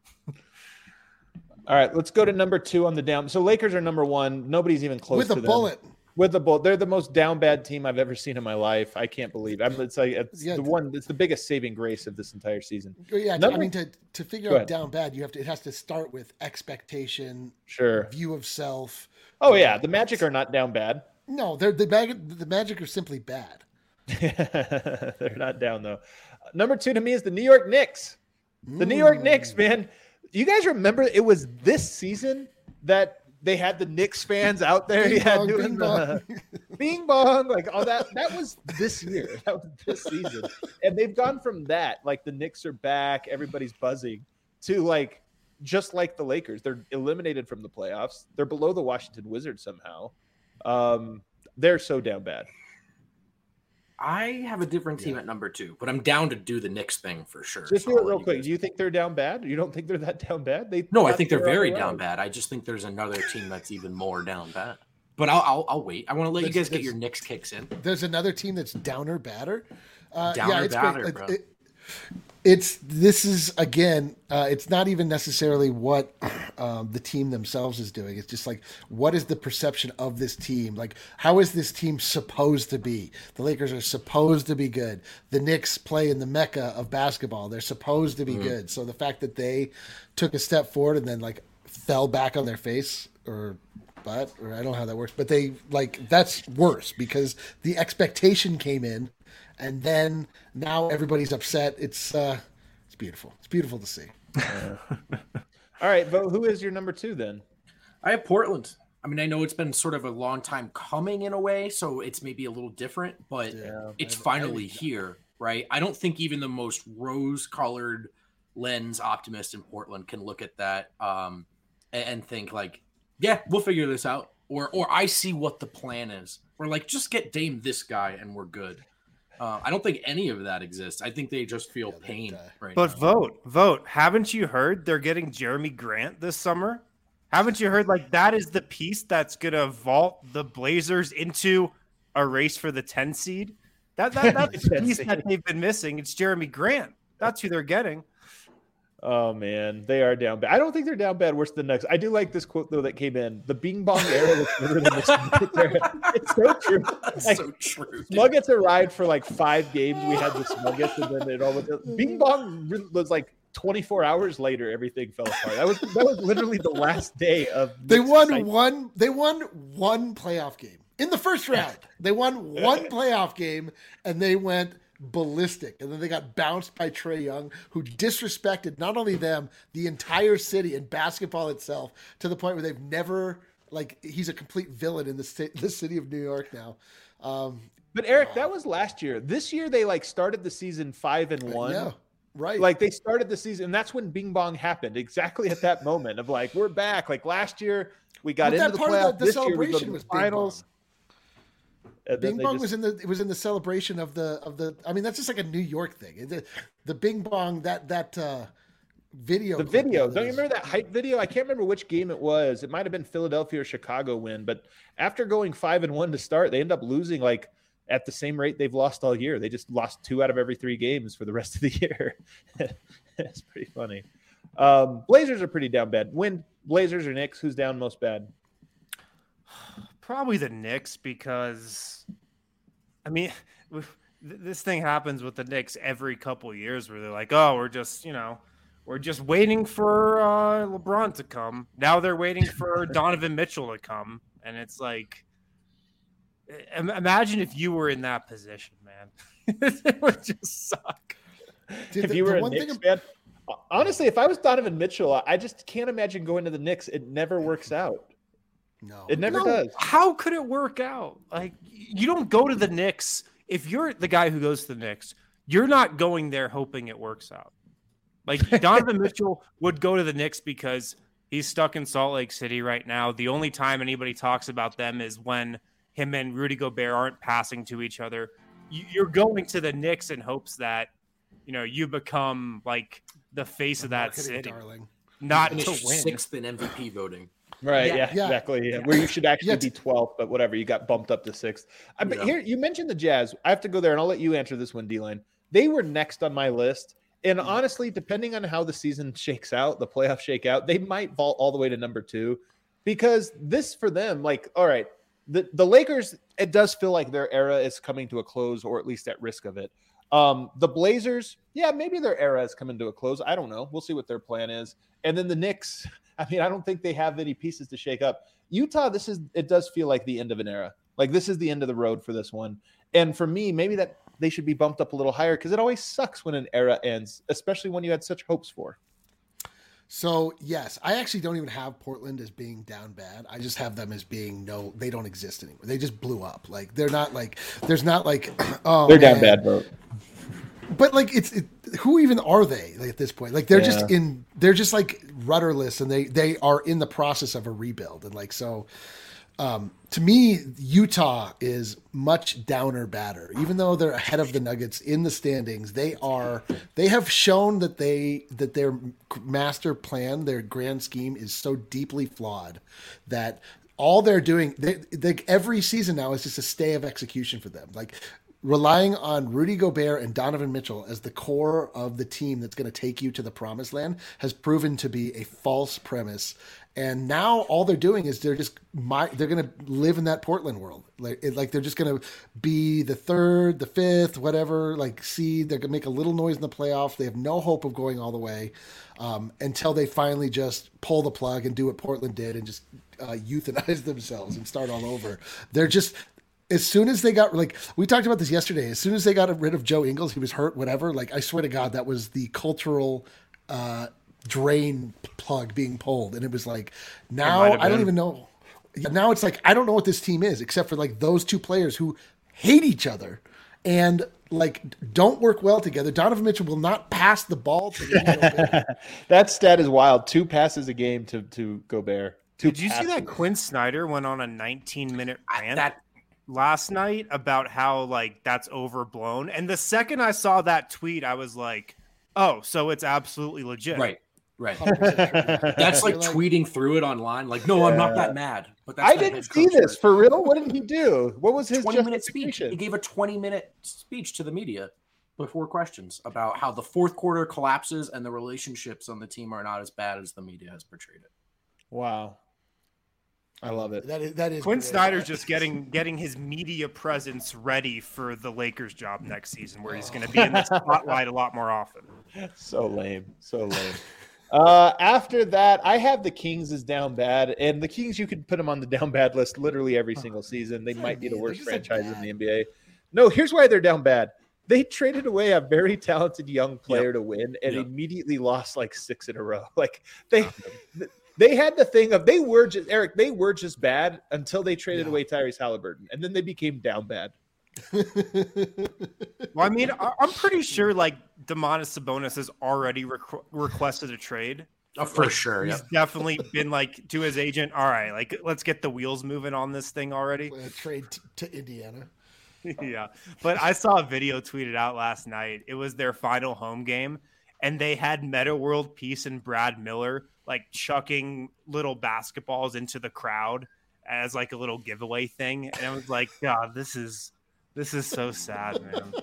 All right, let's go to number 2 on the down. So Lakers are number 1. Nobody's even close to them. With the bullet. They're the most down bad team I've ever seen in my life. I can't believe it. It's the biggest saving grace of this entire season. Yeah, to figure out down bad, it has to start with expectation, view of self. Oh yeah, the Magic are not down bad. No, the Magic are simply bad. They're not down though. Number 2 to me is the New York Knicks. The New York Knicks, man. Do you guys remember it was this season that they had the Knicks fans out there? Doing the bing bong, like all that. That was this year. That was this season. And they've gone from that, like the Knicks are back, everybody's buzzing, to just like the Lakers. They're eliminated from the playoffs. They're below the Washington Wizards somehow. They're so down bad. I have a different team at number 2, but I'm down to do the Knicks thing for sure. Just do it real quick. Do you think they're down bad? You don't think they're that down bad? No, I think they're very down bad. I just think there's another team that's even more down bad. But I'll wait. I want to let you guys get your Knicks kicks in. There's another team that's downer badder. Badder, bro. This is again. It's not even necessarily what the team themselves is doing. It's just like, what is the perception of this team? Like, how is this team supposed to be? The Lakers are supposed to be good. The Knicks play in the mecca of basketball. They're supposed to be good. So the fact that they took a step forward and then like fell back on their face or I don't know how that works, but they that's worse because the expectation came in. And then now everybody's upset. It's beautiful. It's beautiful to see. All right, but who is your number 2 then? I have Portland. I mean, I know it's been sort of a long time coming in a way, so it's maybe a little different, but it's finally here, right? I don't think even the most rose-colored lens optimist in Portland can look at that and think like, yeah, we'll figure this out. Or I see what the plan is. Or like, just get Dame this guy and we're good. I don't think any of that exists. I think they just feel pain right now. But vote. Haven't you heard they're getting Jeremy Grant this summer? Haven't you heard like that is the piece that's going to vault the Blazers into a race for the 10 seed? That's the piece that they've been missing. It's Jeremy Grant. That's who they're getting. Oh man, they are down bad. I don't think they're down bad worse than the Knicks. I do like this quote though that came in. The Bing Bong era was better than the era. It's so true. That's so true. Smuggets arrived for like 5 games. We had the Smuggets, and then it all went. Bing Bong was like 24 hours later. Everything fell apart. That was literally the last day of. They won one playoff game in the first round. They won one playoff game, and they went ballistic, and then they got bounced by Trae Young, who disrespected not only them, the entire city and basketball itself, to the point where they've never he's a complete villain in the city of New York now. But Eric, that was last year. This year they started the season 5-1. Yeah, right. They started the season, and that's when Bing Bong happened. Exactly at that moment of we're back. Like last year we got into the playoffs. This year we go to the finals. Bing Bong was in the celebration of the. I mean, that's just like a New York thing. The Bing Bong that video. The video. Don't you remember that hype video? I can't remember which game it was. It might have been Philadelphia or Chicago win. But after going 5-1 to start, they end up losing at the same rate they've lost all year. They just lost 2 out of every 3 games for the rest of the year. It's pretty funny. Blazers are pretty down bad. When Blazers or Knicks, who's down most bad? Probably the Knicks because, I mean, this thing happens with the Knicks every couple of years where they're like, oh, we're just waiting for LeBron to come. Now they're waiting for Donovan Mitchell to come. And it's like, imagine if you were in that position, man. It would just suck. If you were a Knicks fan, honestly, if I was Donovan Mitchell, I just can't imagine going to the Knicks. It never works out. No, it never does. How could it work out? You don't go to the Knicks. If you're the guy who goes to the Knicks, you're not going there hoping it works out. Donovan Mitchell would go to the Knicks because he's stuck in Salt Lake City right now. The only time anybody talks about them is when him and Rudy Gobert aren't passing to each other. You're going to the Knicks in hopes that, you become the face of that city. Darling. Not to win. 6th in MVP voting. Right. Yeah, exactly. Yeah. Where you should actually be 12th, but whatever. You got bumped up to 6th. But here, you mentioned the Jazz. I have to go there, and I'll let you answer this one, D-Line. They were next on my list. And honestly, depending on how the season shakes out, the playoffs shake out, they might vault all the way to number 2. Because this, for them, all right, the Lakers, it does feel like their era is coming to a close, or at least at risk of it. The Blazers, maybe their era is coming to a close. I don't know. We'll see what their plan is. And then the Knicks, I mean, I don't think they have any pieces to shake up. Utah, it does feel like the end of an era. This is the end of the road for this one. And for me, maybe that they should be bumped up a little higher because it always sucks when an era ends, especially when you had such hopes for. So, yes, I actually don't even have Portland as being down bad. I just have them as being they don't exist anymore. They just blew up. They're not there's not oh, they're down bad, bro. But who even are they at this point? They're just rudderless, and they are in the process of a rebuild. And so To me, Utah is much downer batter. Even though they're ahead of the Nuggets in the standings, they have shown that their master plan, their grand scheme, is so deeply flawed that all they're doing, every season now is just a stay of execution for them. Like relying on Rudy Gobert and Donovan Mitchell as the core of the team that's going to take you to the promised land has proven to be a false premise. And now all they're doing is they're going to live in that Portland world. Like they're just going to be the third, the fifth, whatever, like seed. They're going to make a little noise in the playoffs. They have no hope of going all the way until they finally just pull the plug and do what Portland did and just euthanize themselves and start all over. They're just, as soon as they got, like, we talked about this yesterday, as soon as they got rid of Joe Ingles, he was hurt, whatever. Like, I swear to God, that was the cultural drain plug being pulled. And it was like, now I don't even know. Now it's like, I don't know what this team is, except for like those two players who hate each other and like don't work well together. Donovan Mitchell will not pass the ball to That stat is wild. 2 passes a game to Gobert. Did you see that Quinn Snyder went on a 19-minute rant last night about how like that's overblown? And the second I saw that tweet, I was like, oh, so it's absolutely legit. Right. That's like tweeting through it online. Like, no, I'm not that mad. But that's I didn't see this for real. What did he do? What was his 20-minute speech? He gave a 20-minute speech to the media before questions about how the fourth quarter collapses and the relationships on the team are not as bad as the media has portrayed it. Wow. I love it. That is Quinn great. Snyder's just getting his media presence ready for the Lakers job next season, where he's going to be in the spotlight a lot more often. So lame. After that, I have the Kings as down bad, and the Kings, you could put them on the down bad list literally every single season. They might be the worst franchise in the NBA. No, here's why they're down bad. They traded away a very talented young player to win and immediately lost like 6 in a row. Like they had the thing of they were just bad until they traded away Tyrese Halliburton, and then they became down bad. Well, I mean, I'm pretty sure like Domantas Sabonis has already requested a trade. Oh, for sure. He's definitely been like to his agent, all right, like let's get the wheels moving on this thing already. Trade to Indiana. Yeah. But I saw a video tweeted out last night. It was their final home game, and they had Meta World Peace and Brad Miller like chucking little basketballs into the crowd as like a little giveaway thing. And I was like, God, this is so sad, man.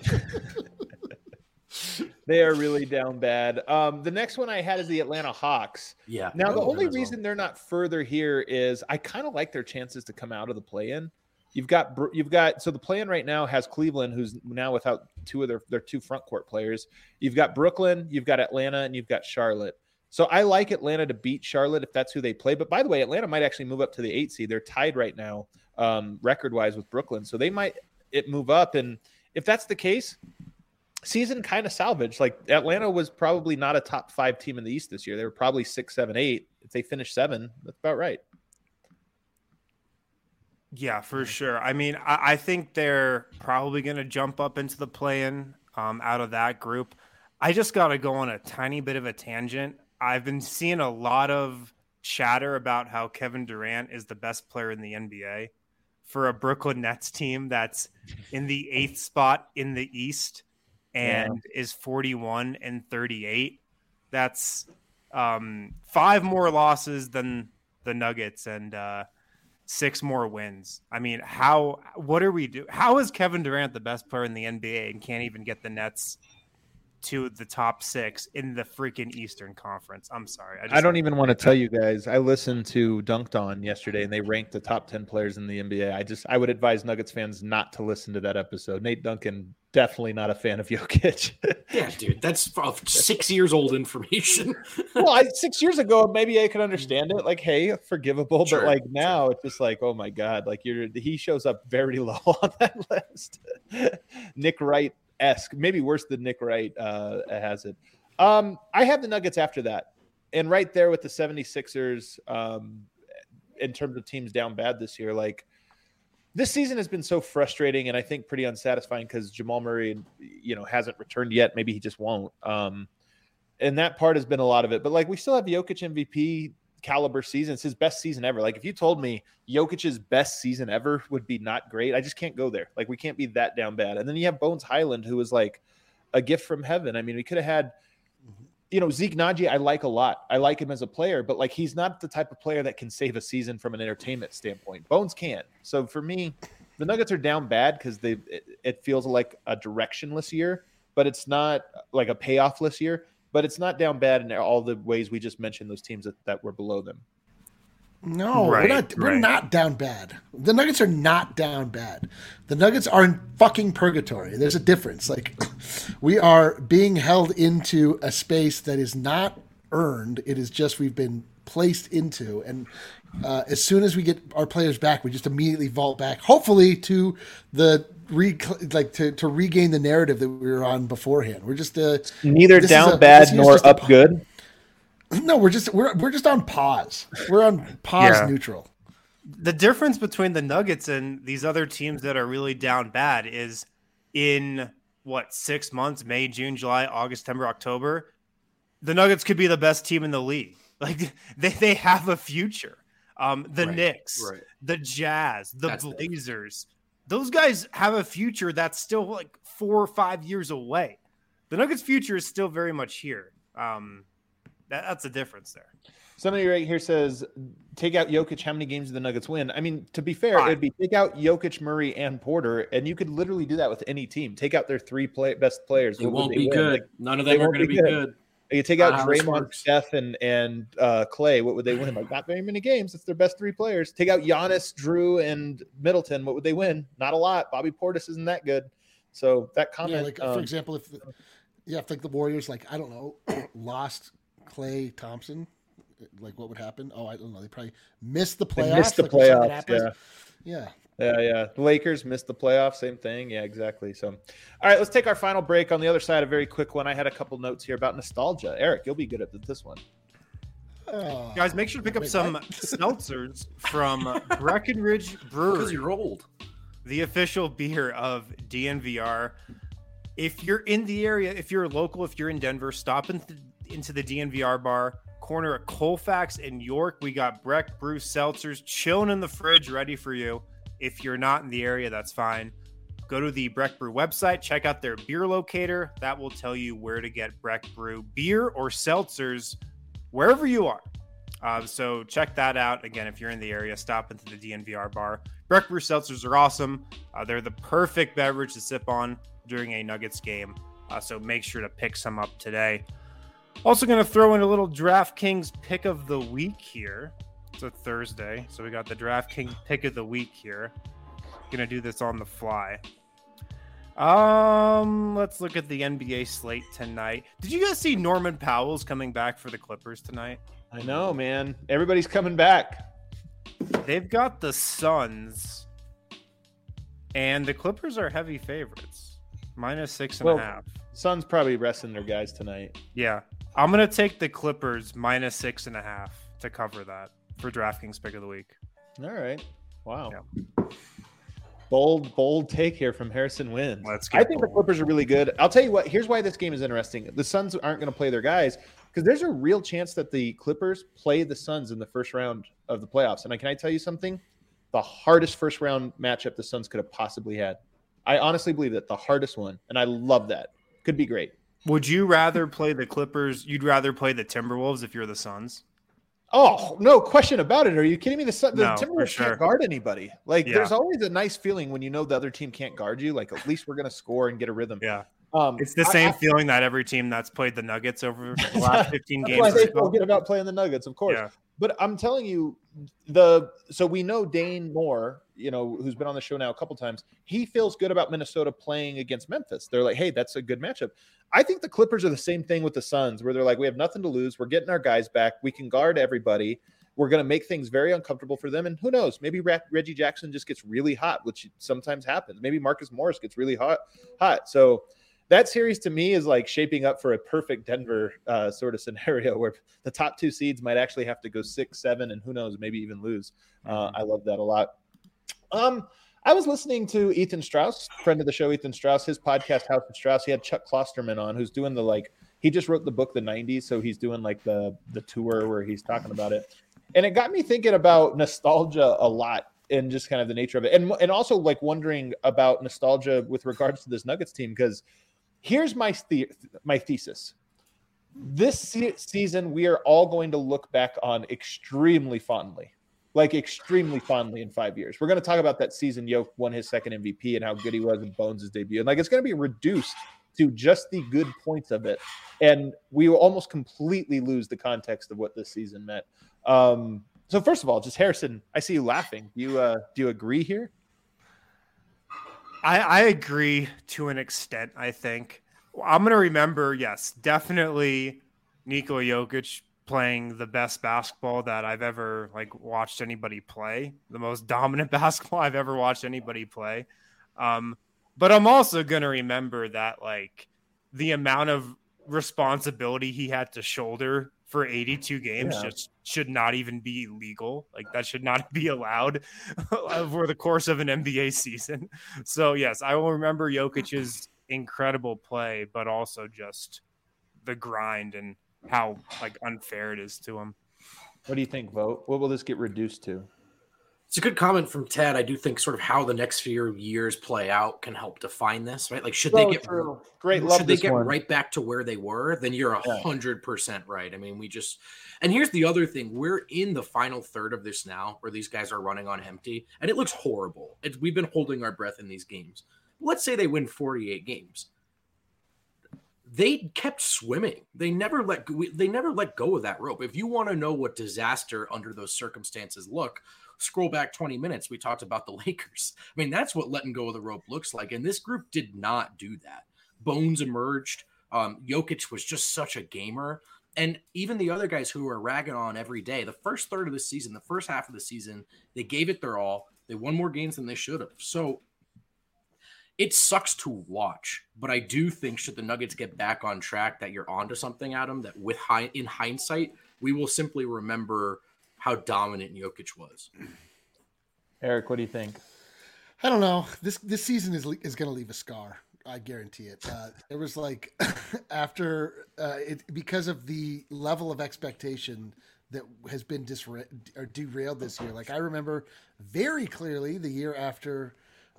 They are really down bad. The next one I had is the Atlanta Hawks. Yeah. Now, the only reason they're not further here is I kind of like their chances to come out of the play-in. You've got so the play-in right now has Cleveland, who's now without 2 of their 2 front court players. You've got Brooklyn, you've got Atlanta, and you've got Charlotte. So I like Atlanta to beat Charlotte if that's who they play. But by the way, Atlanta might actually move up to the 8 seed. They're tied right now record-wise with Brooklyn. So they might move up. And if that's the case, season kind of salvaged. Like Atlanta was probably not a top 5 team in the East this year. They were probably 6, 7, 8. If they finish 7, that's about right. Yeah, for sure. I mean, I think they're probably going to jump up into the play-in out of that group. I just got to go on a tiny bit of a tangent. I've been seeing a lot of chatter about how Kevin Durant is the best player in the NBA for a Brooklyn Nets team that's in the 8th spot in the East and is 41-38. That's 5 more losses than the Nuggets and 6 more wins. I mean, what are we doing? How is Kevin Durant the best player in the NBA and can't even get the Nets to the top 6 in the freaking Eastern Conference? I'm sorry. I don't even want to tell you guys. I listened to Dunked On yesterday, and they ranked the top 10 players in the NBA. I would advise Nuggets fans not to listen to that episode. Nate Duncan, definitely not a fan of Jokic. Yeah, dude, that's 6 years old information. Well, 6 years ago, maybe I could understand it. Like, hey, forgivable. Sure, but like now, it's just like, oh my God, like he shows up very low on that list. Nick Wright-esque, maybe worse than Nick Wright has it. I have the Nuggets after that. And right there with the 76ers in terms of teams down bad this year, like this season has been so frustrating and I think pretty unsatisfying because Jamal Murray, hasn't returned yet. Maybe he just won't. And that part has been a lot of it. But like we still have Jokic MVP. caliber season. It's his best season ever. Like if you told me Jokic's best season ever would be not great, I just can't go there. Like we can't be that down bad. And then you have Bones Highland, who was like a gift from heaven. I mean, we could have had, Zeke Naji, I like a lot. I like him as a player, but like he's not the type of player that can save a season from an entertainment standpoint. Bones can. So for me, the Nuggets are down bad because it feels like a directionless year, but it's not like a payoffless year. But it's not down bad in all the ways we just mentioned, those teams that were below them. No, we're not down bad. The Nuggets are not down bad. The Nuggets are in fucking purgatory. There's a difference. Like we are being held into a space that is not earned. It is just we've been placed into. And as soon as we get our players back, we just immediately vault back, hopefully to the to regain the narrative that we were on beforehand. We're just neither down bad nor up good. No, we're just on pause. We're on pause neutral. The difference between the Nuggets and these other teams that are really down bad is in 6 months, May, June, July, August, September, October, the Nuggets could be the best team in the league. Like they have a future. Knicks, the Jazz, the Blazers. Those guys have a future that's still like 4 or 5 years away. The Nuggets' future is still very much here. That's the difference there. Somebody right here says, take out Jokic, how many games do the Nuggets win? I mean, to be fair, it'd be take out Jokic, Murray, and Porter, and you could literally do that with any team. Take out their three best players. It won't be good. Like, none of them are going to be good. You take out Draymond, Steph, and Clay, what would they win? Like, not very many games. It's their best three players. Take out Giannis, Drew, and Middleton. What would they win? Not a lot. Bobby Portis isn't that good. So that comment. Yeah, for example, if the Warriors, I don't know, lost Clay Thompson, what would happen? Oh, I don't know. They probably missed the playoffs. Yeah. The Lakers missed the playoffs. Same thing. Yeah, exactly. So, all right, let's take our final break. On the other side, a very quick one. I had a couple notes here about nostalgia. Eric, you'll be good at this one. Guys, make sure to pick up some seltzers from Breckenridge Brewery. Because you're old. The official beer of DNVR. If you're in the area, if you're local, if you're in Denver, stop into the DNVR bar. Corner at Colfax in York. We got Breck Brew seltzers chilling in the fridge, ready for you. If you're not in the area, that's fine. Go to the Breck Brew website, check out their beer locator. That will tell you where to get Breck Brew beer or seltzers wherever you are. So check that out. Again, if you're in the area, stop into the DNVR bar. Breck Brew seltzers are awesome. They're the perfect beverage to sip on during a Nuggets game. So make sure to pick some up today. Also going to throw in a little DraftKings pick of the week here. It's a Thursday, so we got the DraftKings pick of the week here. Going to do this on the fly. Let's look at the NBA slate tonight. Did you guys see Norman Powell's coming back for the Clippers tonight? I know, man. Everybody's coming back. They've got the Suns, and the Clippers are heavy favorites. -6.5. Suns probably resting their guys tonight. Yeah. I'm going to take the Clippers -6.5 to cover that for DraftKings pick of the week. All right. Wow. Yeah. Bold take here from Harrison Wins. I think the Clippers are really good. I'll tell you what, here's why this game is interesting. The Suns aren't going to play their guys because there's a real chance that the Clippers play the Suns in the first round of the playoffs. And can I tell you something? The hardest first round matchup the Suns could have possibly had. I honestly believe that the hardest one. And I love that. Could be great. Would you rather play the Clippers? You'd rather play the Timberwolves if you're the Suns? Oh, no question about it. Are you kidding me? The Timberwolves can't guard anybody. There's always a nice feeling when you know the other team can't guard you. At least we're going to score and get a rhythm. Yeah. It's the same feeling that every team that's played the Nuggets over the last 15 games. Why they forget about playing the Nuggets, of course. Yeah. But I'm telling you, so we know Dane Moore, who's been on the show now a couple times. He feels good about Minnesota playing against Memphis. They're like, hey, that's a good matchup. I think the Clippers are the same thing with the Suns, where they're like, we have nothing to lose. We're getting our guys back. We can guard everybody. We're going to make things very uncomfortable for them. And who knows? Maybe Reggie Jackson just gets really hot, which sometimes happens. Maybe Marcus Morris gets really hot. So that series to me is shaping up for a perfect Denver sort of scenario where the top two seeds might actually have to go 6-7 and who knows, maybe even lose. I love that a lot. I was listening to Ethan Strauss, friend of the show, Ethan Strauss, his podcast, House of Strauss. He had Chuck Klosterman on, who's doing he just wrote the book, The 90s. So he's doing the tour where he's talking about it. And it got me thinking about nostalgia a lot and just kind of the nature of it. And also like wondering about nostalgia with regards to this Nuggets team, because here's my thesis. This season, we are all going to look back on extremely fondly in 5 years. We're going to talk about that season Jokic won his second MVP and how good he was in Bones' debut. And like, it's going to be reduced to just the good points of it. And we will almost completely lose the context of what this season meant. So first of all, just Harrison, I see you laughing. Do you agree here? I agree to an extent, I think. I'm going to remember, yes, definitely Nikola Jokic playing the best basketball that I've ever watched anybody play, the most dominant basketball I've ever watched anybody play. But I'm also going to remember that the amount of responsibility he had to shoulder for 82 games just should not even be legal. That should not be allowed over the course of an NBA season. So yes, I will remember Jokic's incredible play, but also just the grind and how unfair it is to him. What do you think, Vogt? What will this get reduced to? It's a good comment from Ted. I do think sort of how the next few years play out can help define this, right? Should they get right back to where they were? Then you're 100% right. I mean, and here's the other thing: we're in the final third of this now, where these guys are running on empty, and it looks horrible. We've been holding our breath in these games. Let's say they win 48 games. They kept swimming. They never let go of that rope. If you want to know what disaster under those circumstances scroll back 20 minutes. We talked about the Lakers. I mean, that's what letting go of the rope looks like. And this group did not do that. Bones emerged. Jokic was just such a gamer. And even the other guys who are ragging on every day, the first third of the season, the first half of the season, they gave it their all. They won more games than they should have. So it sucks to watch. But I do think should the Nuggets get back on track, that you're onto something, Adam, that in hindsight, we will simply remember how dominant Jokic was. Eric, what do you think? I don't know. This season is going to leave a scar. I guarantee it. It was after because of the level of expectation that has been derailed this year. I remember very clearly the year after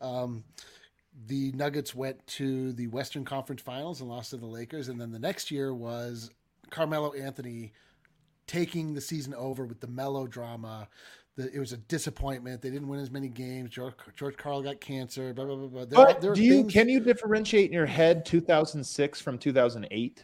the Nuggets went to the Western Conference Finals and lost to the Lakers, and then the next year was Carmelo Anthony taking the season over with the melodrama. It was a disappointment. They didn't win as many games. George Karl got cancer. Blah blah blah. Can you differentiate in your head 2006 from 2008?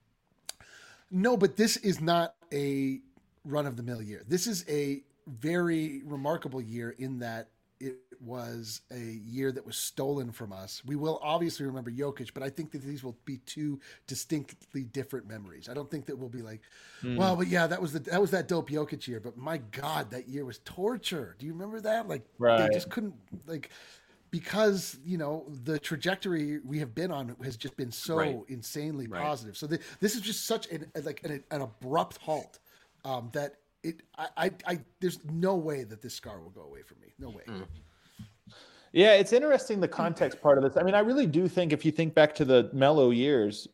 No, but this is not a run of the mill year. This is a very remarkable year in that it was a year that was stolen from us. We will obviously remember Jokic, but I think that these will be two distinctly different memories. I don't think that we'll be well, but yeah, that was that dope Jokic year. But my God, that year was torture. Do you remember that? They just couldn't because the trajectory we have been on has just been so insanely positive. So this is just such an abrupt halt that. There's no way that this scar will go away from me. No way. Yeah, it's interesting, the context part of this. I mean, I really do think if you think back to the Melo years,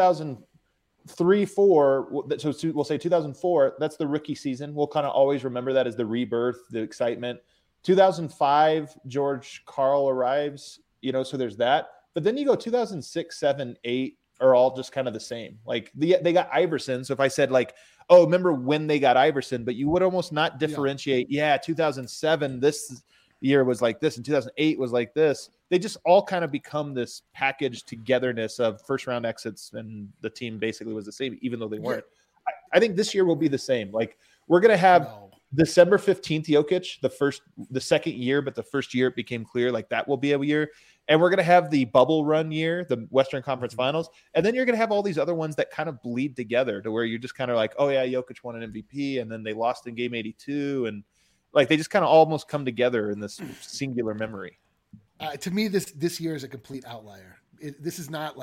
2003, 4, so we'll say 2004, that's the rookie season. We'll kind of always remember that as the rebirth, the excitement. 2005, George Karl arrives, so there's that. But then you go 2006, 7, 8 are all just kind of the same. They got Iverson. So if I said oh, remember when they got Iverson, but you would almost not differentiate. Yeah, 2007, this year was like this, and 2008 was like this. They just all kind of become this packaged togetherness of first round exits, and the team basically was the same, even though they weren't. I think this year will be the same. We're going to have December 15th, Jokic, the second year, but the first year it became clear that will be a year. And we're going to have the bubble run year, the Western Conference Finals. And then you're going to have all these other ones that kind of bleed together to where you're just kind of oh yeah, Jokic won an MVP, and then they lost in game 82. And they just kind of almost come together in this singular memory. To me, this year is a complete outlier. This is not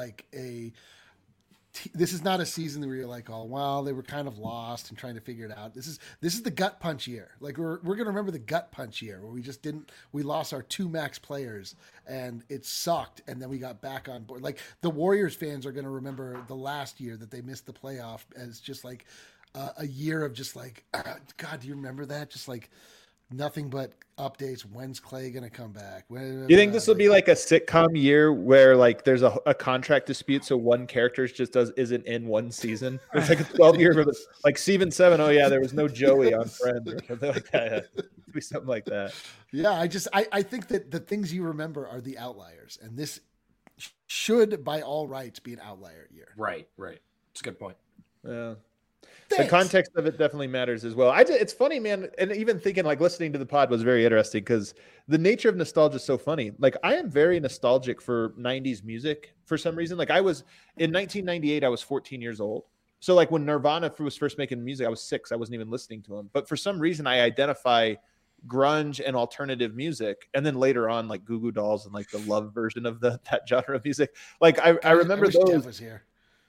this is not a season where you're oh, well, they were kind of lost and trying to figure it out. This is the gut punch year. We're going to remember the gut punch year where we lost our 2 max players and it sucked. And then we got back on board. The Warriors fans are going to remember the last year that they missed the playoff as just a year of just like, God, do you remember that? Just like nothing but updates. When's Clay going to come back? You think this will be like a sitcom year where like there's a contract dispute, so one character just isn't in one season? It's like a 12-year, like Season 7. Oh yeah, there was no Joey on Friends or something like that. It'd be something like that. Yeah, I think that the things you remember are the outliers, and this should, by all rights, be an outlier year. Right. It's a good point. Yeah. Thanks. The context of it definitely matters as well. It's funny, man. And even thinking, like, listening to the pod was very interesting because the nature of nostalgia is so funny. Like, I am very nostalgic for 90s music for some reason. Like, I was in 1998, I was 14 years old. So, like, when Nirvana was first making music, I was 6. I wasn't even listening to them. But for some reason, I identify grunge and alternative music. And then later on, like, Goo Goo Dolls and, like, the love version of that genre of music. Like, I remember wish those. Jeff was here.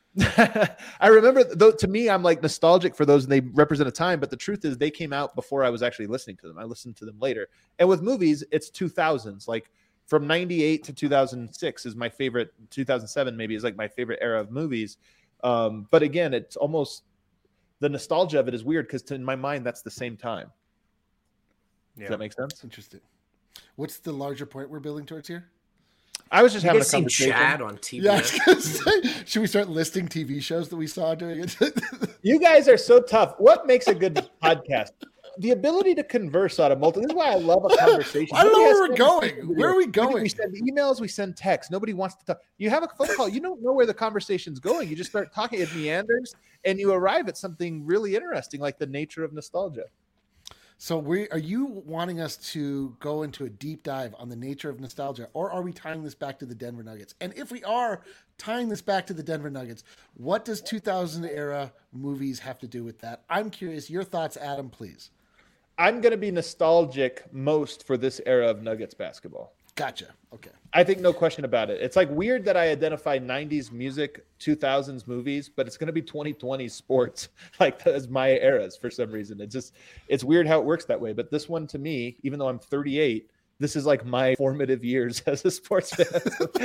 I remember, though, to me, I'm like nostalgic for those and they represent a time, but the truth is they came out before I was actually listening to them. I listened to them later. And with movies, it's 2000s. Like from 98 to 2006 is my favorite. 2007 maybe is like my favorite era of movies. But again, it's almost the nostalgia of it is weird because in my mind, that's the same time. Does that make sense? Interesting. What's the larger point we're building towards here? I was just having a seen conversation. Chad on TV. Yeah, I was gonna say, should we start listing TV shows that we saw doing it? You guys are so tough. What makes a good podcast? The ability to converse on a multi. This is why I love a conversation. I don't know Nobody where has we're to going. Where are we going? We send emails, we send texts. Nobody wants to talk. You have a phone call. You don't know where the conversation's going. You just start talking. It meanders, and you arrive at something really interesting, like the nature of nostalgia. So are you wanting us to go into a deep dive on the nature of nostalgia, or are we tying this back to the Denver Nuggets? And if we are tying this back to the Denver Nuggets, what does 2000 era movies have to do with that? I'm curious. Your thoughts, Adam, please. I'm going to be nostalgic most for this era of Nuggets basketball. Gotcha. Okay. I think no question about it. It's like weird that I identify 90s music, 2000s movies, but it's going to be 2020s sports like as my eras for some reason. It's weird how it works that way. But this one to me, even though I'm 38, this is like my formative years as a sports fan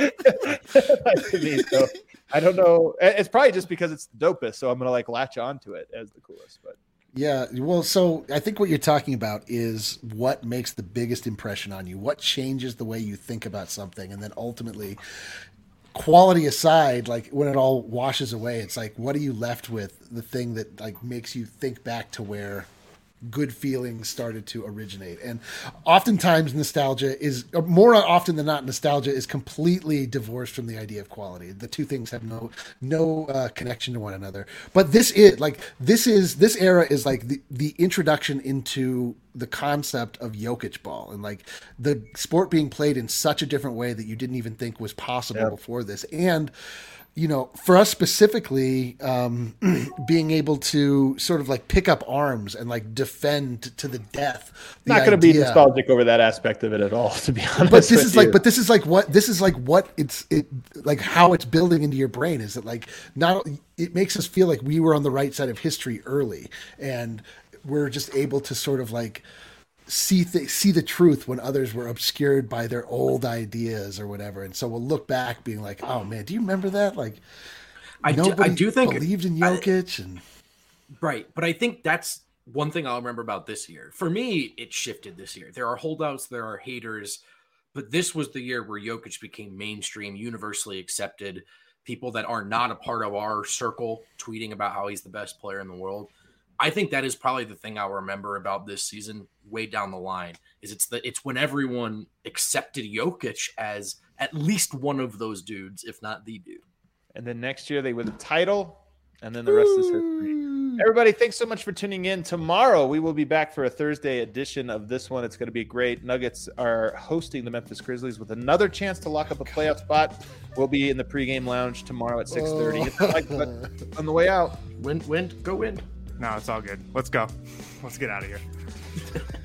to me. So I don't know. It's probably just because it's the dopest. So I'm going to like latch onto it as the coolest, but. Yeah, well, so I think what you're talking about is what makes the biggest impression on you, what changes the way you think about something, and then ultimately, quality aside, like when it all washes away, it's like, what are you left with? The thing that like makes you think back to where good feelings started to originate. And oftentimes nostalgia is, or more often than not, nostalgia is completely divorced from the idea of quality. The two things have no connection to one another. But this era is like the introduction into the concept of Jokic ball and like the sport being played in such a different way that you didn't even think was possible before this. And you know, for us specifically, being able to sort of like pick up arms and like defend to the death. Not going to be nostalgic over that aspect of it at all, to be honest. But this is what it's how it's building into your brain is that like it makes us feel like we were on the right side of history early, and we're just able to sort of like see the truth when others were obscured by their old ideas or whatever. And so we'll look back being like, oh man, do you remember that? Like I do think believed in Jokic right. But I think that's one thing I'll remember about this year. For me, it shifted this year. There are holdouts, there are haters, but this was the year where Jokic became mainstream, universally accepted. People that are not a part of our circle tweeting about how he's the best player in the world. I think that is probably the thing I'll remember about this season way down the line is it's when everyone accepted Jokic as at least one of those dudes, if not the dude. And then next year they win the title, and then the rest is history. Everybody, thanks so much for tuning in. Tomorrow we will be back for a Thursday edition of this one. It's going to be great. Nuggets are hosting the Memphis Grizzlies with another chance to lock up a playoff spot. We'll be in the pregame lounge tomorrow at 6:30. On the way out. Win, go win. No, it's all good. Let's go. Let's get out of here.